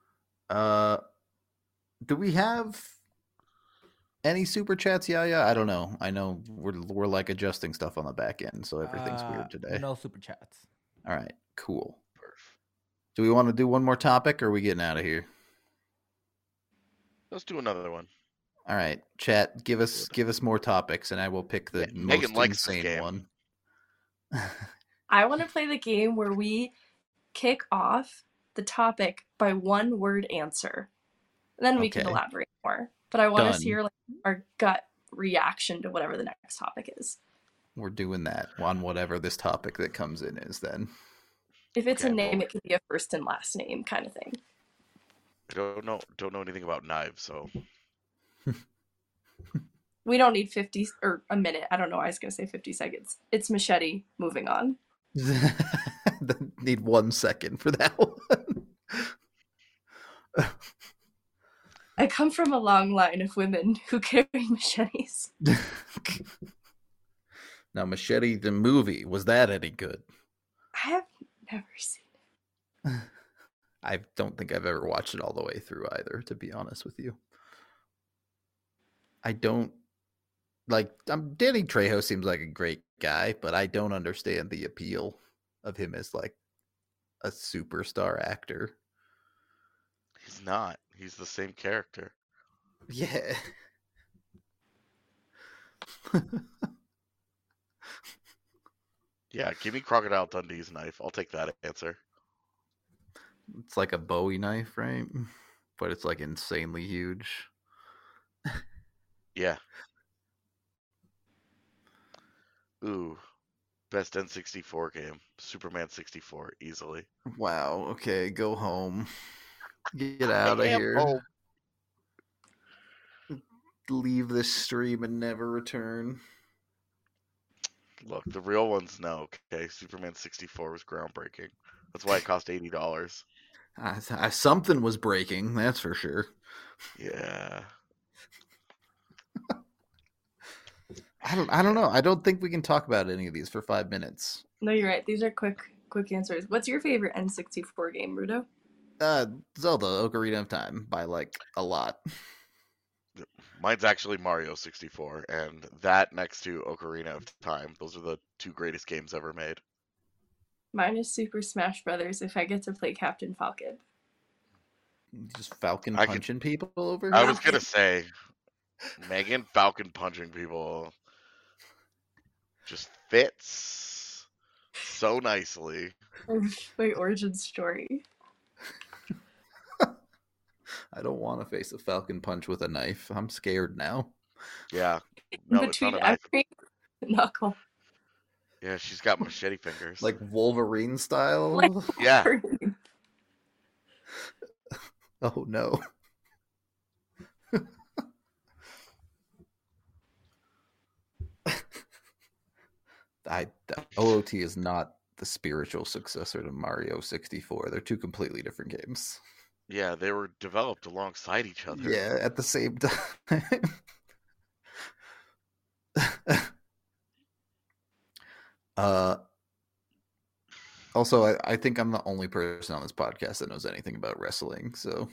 Do we have any super chats? Yeah. I don't know. I know we're like adjusting stuff on the back end, so everything's weird today. No super chats. All right, cool. Do we want to do one more topic, or are we getting out of here? Let's do another one. All right, chat. Give us more topics, and I will pick the most insane one. I want to play the game where we kick off the topic by one word answer. Then we can elaborate more. But I want to hear like our gut reaction to whatever the next topic is. We're doing that on whatever this topic that comes in is then. If it's a name, it could be a first and last name kind of thing. I don't know anything about knives, so we don't need 50 or a minute. I don't know. I was going to say 50 seconds. It's machete. Moving on. Need 1 second for that one. I come from a long line of women who carry machetes. Now, Machete, the movie, was that any good? I have never seen it. I don't think I've ever watched it all the way through either, to be honest with you. I don't like Danny Trejo seems like a great guy, but I don't understand the appeal of him as like a superstar actor. He's not. He's the same character. Yeah. Yeah, give me Crocodile Dundee's knife. I'll take that answer. It's like a Bowie knife, right? But it's like insanely huge. Yeah. Ooh. Best N64 game. Superman 64, easily. Wow. Okay, go home. Get out of here. Home. Leave this stream and never return. Look, the real ones know, okay? Superman 64 was groundbreaking. That's why it cost $80. Something was breaking, that's for sure. Yeah. I don't know. I don't think we can talk about any of these for 5 minutes. No, you're right. These are quick answers. What's your favorite N64 game, Rudo? Zelda Ocarina of Time by like a lot. Mine's actually Mario 64, and that next to Ocarina of Time. Those are the two greatest games ever made. Mine is Super Smash Brothers if I get to play Captain Falcon. Just Falcon punching people over here? I was going to say, Megan Falcon punching people just fits so nicely. My origin story. I don't want to face a Falcon punch with a knife. I'm scared now. Yeah. No, it's Between not a knife. every knuckle. Yeah, she's got machete fingers. Like Wolverine style? Like Yeah. Wolverine. Oh no. OOT is not the spiritual successor to Mario 64. They're two completely different games. Yeah, they were developed alongside each other. Yeah, at the same time. Also, I think I'm the only person on this podcast that knows anything about wrestling, so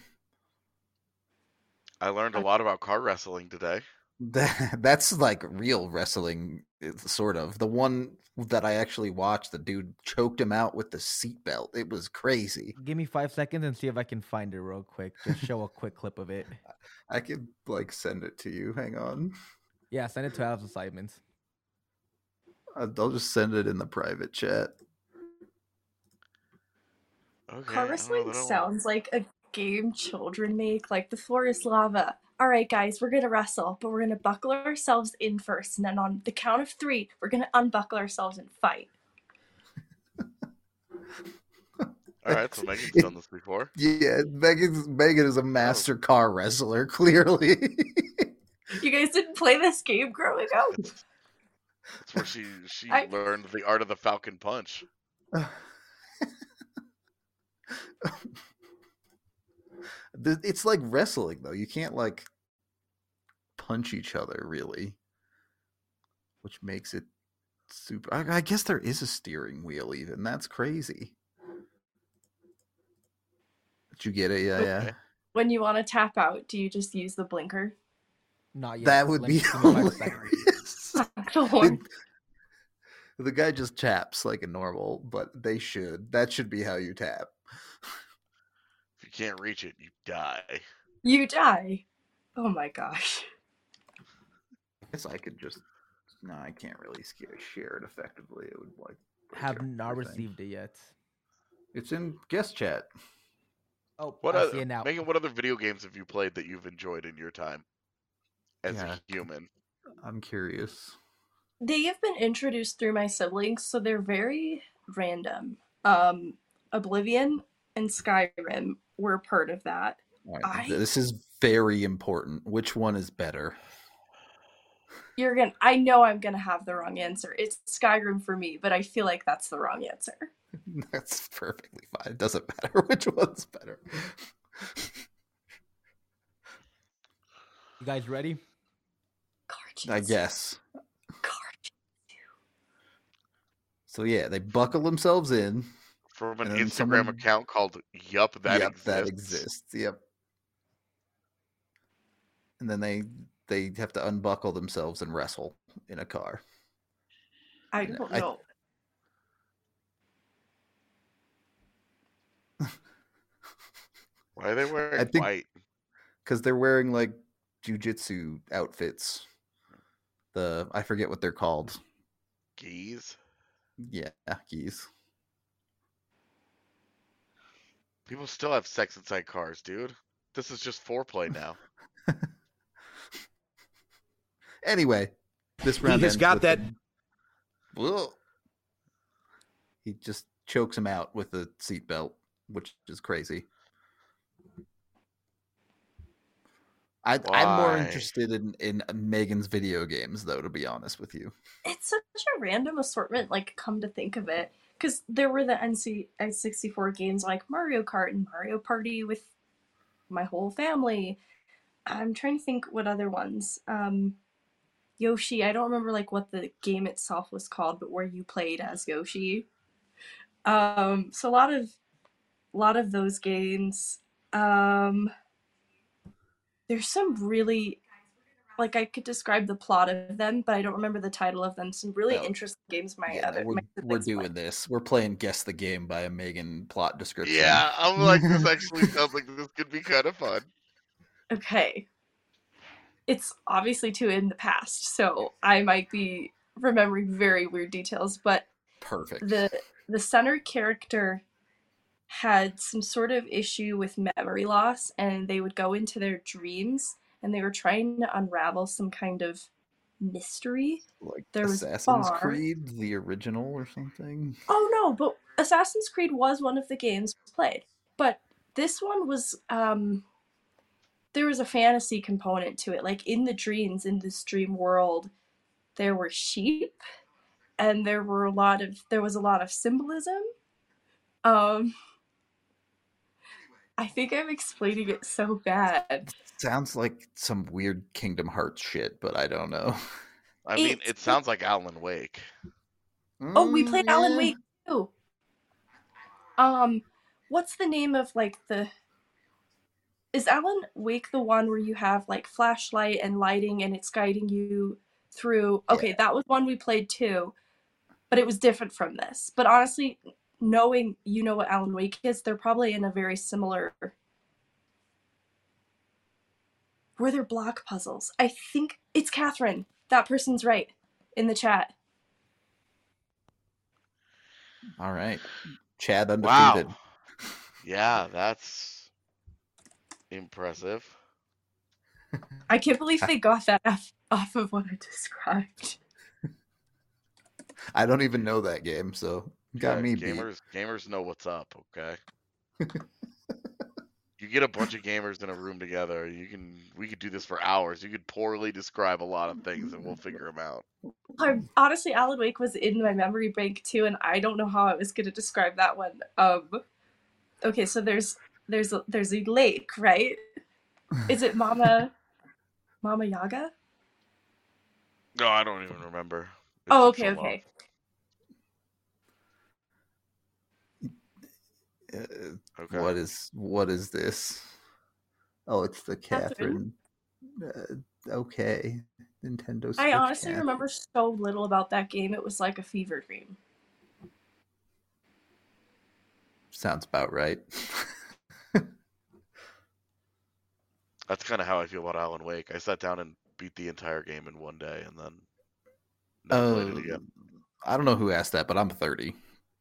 I learned a lot about car wrestling today. that's like real wrestling, sort of. The one that I actually watched, the dude choked him out with the seatbelt. It was crazy. Give me 5 seconds and see if I can find it real quick. Just show a quick clip of it. I could like send it to you. Hang on. Yeah, send it to Alex Simons. I'll just send it in the private chat. Okay, Car wrestling sounds like a game children make. Like, the floor is lava. All right, guys, we're going to wrestle, but we're going to buckle ourselves in first. And then on the count of 3, we're going to unbuckle ourselves and fight. All right, so Megan's done this before. Yeah, Megan is a master car wrestler, clearly. You guys didn't play this game growing up? That's where she learned the art of the Falcon Punch. It's like wrestling, though. You can't like punch each other, really, which makes it super. I guess there is a steering wheel, even. That's crazy. Did you get it? Yeah, yeah. When you want to tap out, do you just use the blinker? Not yet. That would Let be me give me 5 seconds. hilarious. The guy just taps like a normal, but they should. That should be how you tap. If you can't reach it, you die. You die. Oh my gosh. I guess I could just. No, I can't really share it effectively. It would like. Have not received it yet. It's in guest chat. Oh, What I see it now. Megan, what other video games have you played that you've enjoyed in your time as a human? I'm curious. They have been introduced through my siblings, so they're very random. Oblivion and Skyrim were part of that. Right. This is very important. Which one is better? I know I'm gonna have the wrong answer. It's Skyrim for me, but I feel like that's the wrong answer. That's perfectly fine. It doesn't matter which one's better. You guys ready? I guess. Card. So yeah, they buckle themselves in. From an And then Instagram someone- account called Yup That Yep, Exists. that exists. Yep. And then they have to unbuckle themselves and wrestle in a car. I don't know. Why are they wearing I think- white? Because they're wearing like jujitsu outfits. I forget what they're called. Geese? Yeah, geese. People still have sex inside cars, dude. This is just foreplay now. Anyway, this round has ends got with that- Whoa. He just chokes him out with a seatbelt, which is crazy. I'm more Why? interested in Megan's video games, though, to be honest with you. It's such a random assortment, like, come to think of it. Because there were the N64 games like Mario Kart and Mario Party with my whole family. I'm trying to think what other ones. Yoshi, I don't remember like what the game itself was called, but where you played as Yoshi. So a lot of those games. There's some really, like, I could describe the plot of them, but I don't remember the title of them. Some really Oh. interesting games. We're siblings doing play. this. We're playing Guess the Game by a Megan plot description. Yeah, I'm like, this actually sounds like this could be kind of fun. Okay. It's obviously too in the past, so I might be remembering very weird details, but Perfect. the center character had some sort of issue with memory loss, and they would go into their dreams and they were trying to unravel some kind of mystery. Like there was Assassin's bar. Creed, the original or something. Oh no, but Assassin's Creed was one of the games played. But this one was there was a fantasy component to it. Like in the dreams, in this dream world, there were sheep and there was a lot of symbolism. I think I'm explaining it so bad. Sounds like some weird Kingdom Hearts shit, but I don't know. I mean, it sounds like Alan Wake. Oh, we played Alan yeah. Wake too. What's the name of like the? Is Alan Wake the one where you have like flashlight and lighting and it's guiding you through? Okay, Yeah. that was one we played too, but it was different from this. But honestly, knowing you know what Alan Wake is, they're probably in a very similar. Were there block puzzles? I think it's Catherine. That person's right in the chat. All right. Chad undefeated. Wow. Yeah, that's impressive. I can't believe they got that off of what I described. I don't even know that game, so got Yeah, me beat. gamers know what's up, okay? You get a bunch of gamers in a room together, we could do this for hours. You could poorly describe a lot of things and we'll figure them out. Honestly, Alan Wake was in my memory bank too, and I don't know how I was going to describe that one. Okay, so there's a lake, right? Is it Mama Yaga? No, I don't even remember. It's Oh, been okay, so long. okay. Okay. What is this? Oh, it's the Catherine. Catherine. Okay, Nintendo Switch. I honestly Catherine. remember so little about that game. It was like a fever dream. Sounds about right. That's kind of how I feel about Alan Wake. I sat down and beat the entire game in one day and then never played it again. I don't know who asked that, but I'm 30.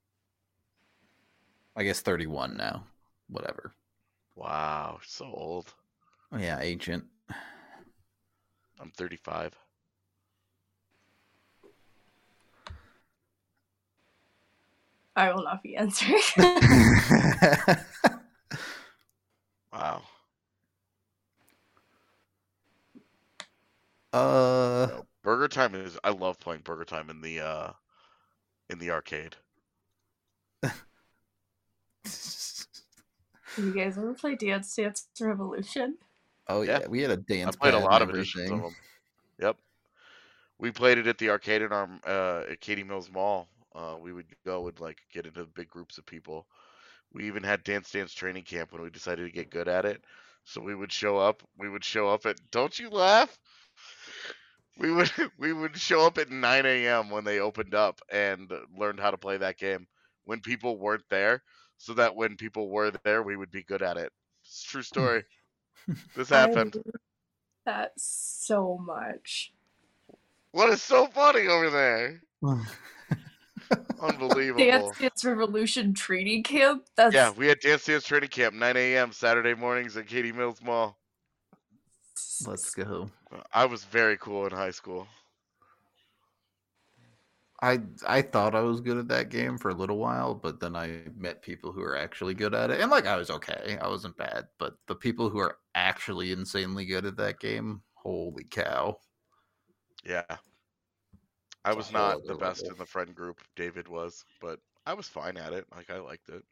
I guess 31 now. Whatever. Wow, so old. Oh, yeah, ancient. I'm 35. I will not be answering. Wow. Uh, Burger Time I love playing Burger Time in the arcade. You guys ever play Dance Dance Revolution? Oh Yeah. yeah, we had a I dance played a pad lot and of editions of everything. them. Yep. We played it at the arcade in our at Katy Mills Mall. We would go and like get into big groups of people. We even had Dance Dance training camp when we decided to get good at it. So we would show up. We would show up at. Don't you laugh? We would we would show up at 9 a.m. when they opened up and learned how to play that game when people weren't there, so that when people were there, we would be good at it. It's a true story. This I happened. love that so much. What is so funny over there? Dance Unbelievable. Dance Revolution training camp? That's Yeah, we had Dance Dance training camp 9 a.m. Saturday mornings at Katy Mills Mall. Let's go. I was very cool in high school. I thought I was good at that game for a little while, but then I met people who are actually good at it, and like I was okay, I wasn't bad, but the people who are actually insanely good at that game, holy cow! Yeah. I It's a was whole not other the best level. in the friend group. David was, but I was fine at it. Like I liked it.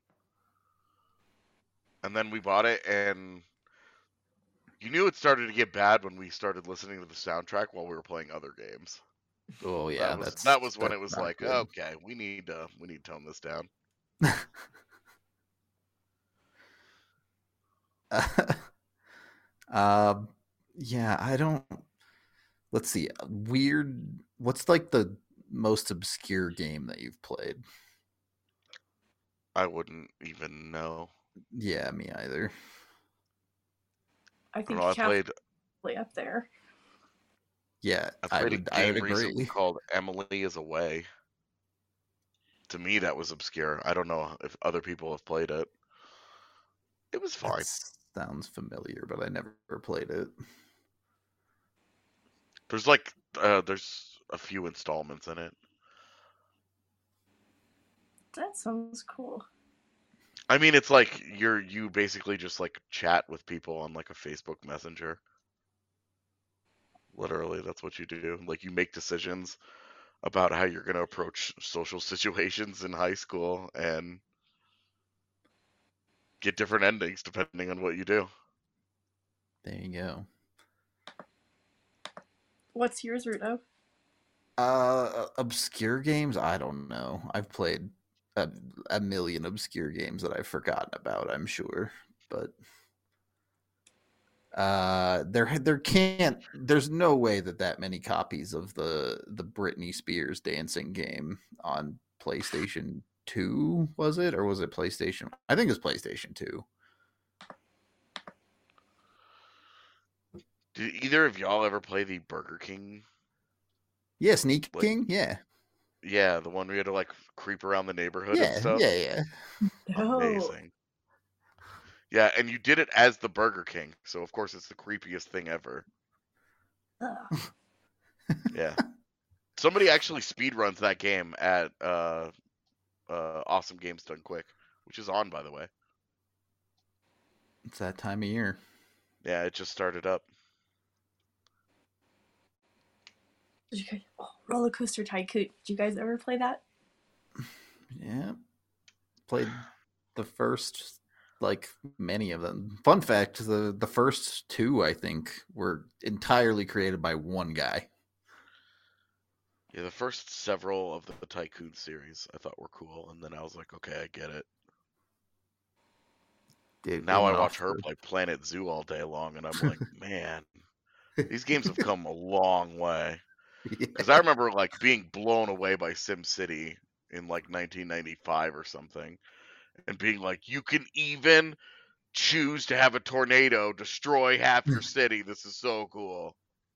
And then we bought it, and you knew it started to get bad when we started listening to the soundtrack while we were playing other games. Oh yeah, That was when that's it was not like, good. okay, we need to tone this down. Yeah, I don't. Let's see. Weird. What's like the most obscure game that you've played? I wouldn't even know. Yeah, me either. I I don't think know. I Catholic played up there. Yeah, I I played a would game agree. recently called Emily is Away. To me, that was obscure. I don't know if other people have played it. It was fine. That sounds familiar, but I never played it. There's like there's a few installments in it. That sounds cool. I mean, it's like you basically just like chat with people on like a Facebook Messenger. Literally, that's what you do. Like you make decisions about how you're going to approach social situations in high school and get different endings depending on what you do. There you go. What's yours, Rudo? Obscure games? I don't know. I've played a million obscure games that I've forgotten about, I'm sure. But there's no way that many copies of the Britney Spears dancing game on PlayStation 2 was it, or was it PlayStation? I think it was PlayStation 2. Did either of y'all ever play the Burger King? Yeah, Sneak Like- King. Yeah, Yeah, the one where you had to like creep around the neighborhood and yeah, stuff. yeah. No. Amazing. Yeah, and you did it as the Burger King, so of course it's the creepiest thing ever. Ugh. Yeah. Somebody actually speedruns that game at Awesome Games Done Quick, which is on, by the way. It's that time of year. Yeah, it just started up. Roller Coaster Tycoon. Did you guys ever play that? Yeah, played the first, like many of them. Fun fact: the first two, I think, were entirely created by one guy. Yeah, the first several of the Tycoon series I thought were cool, and then I was like, okay, I get it. Now I watch her play Planet Zoo all day long, and I'm like, man, these games have come a long way. Because I remember like being blown away by SimCity in like 1995 or something, and being like, you can even choose to have a tornado destroy half your city. This is so cool.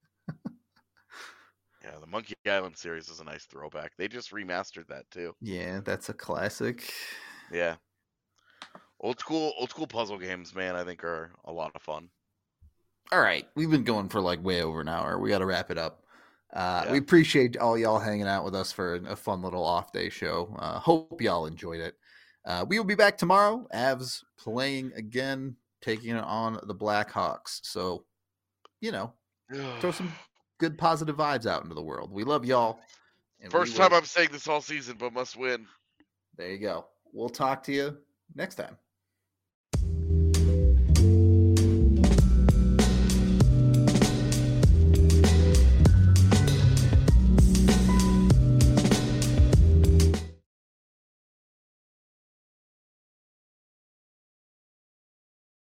Yeah, the Monkey Island series is a nice throwback. They just remastered that too. Yeah, that's a classic. Yeah. Old school puzzle games, man, I think are a lot of fun. All right, we've been going for like way over an hour. We got to wrap it up. Yeah. We appreciate all y'all hanging out with us for a fun little off day show. Hope y'all enjoyed it. We will be back tomorrow. Avs playing again, taking it on the Blackhawks. So, throw some good positive vibes out into the world. We love y'all. And First time I'm saying this all season, but must win. There you go. We'll talk to you next time.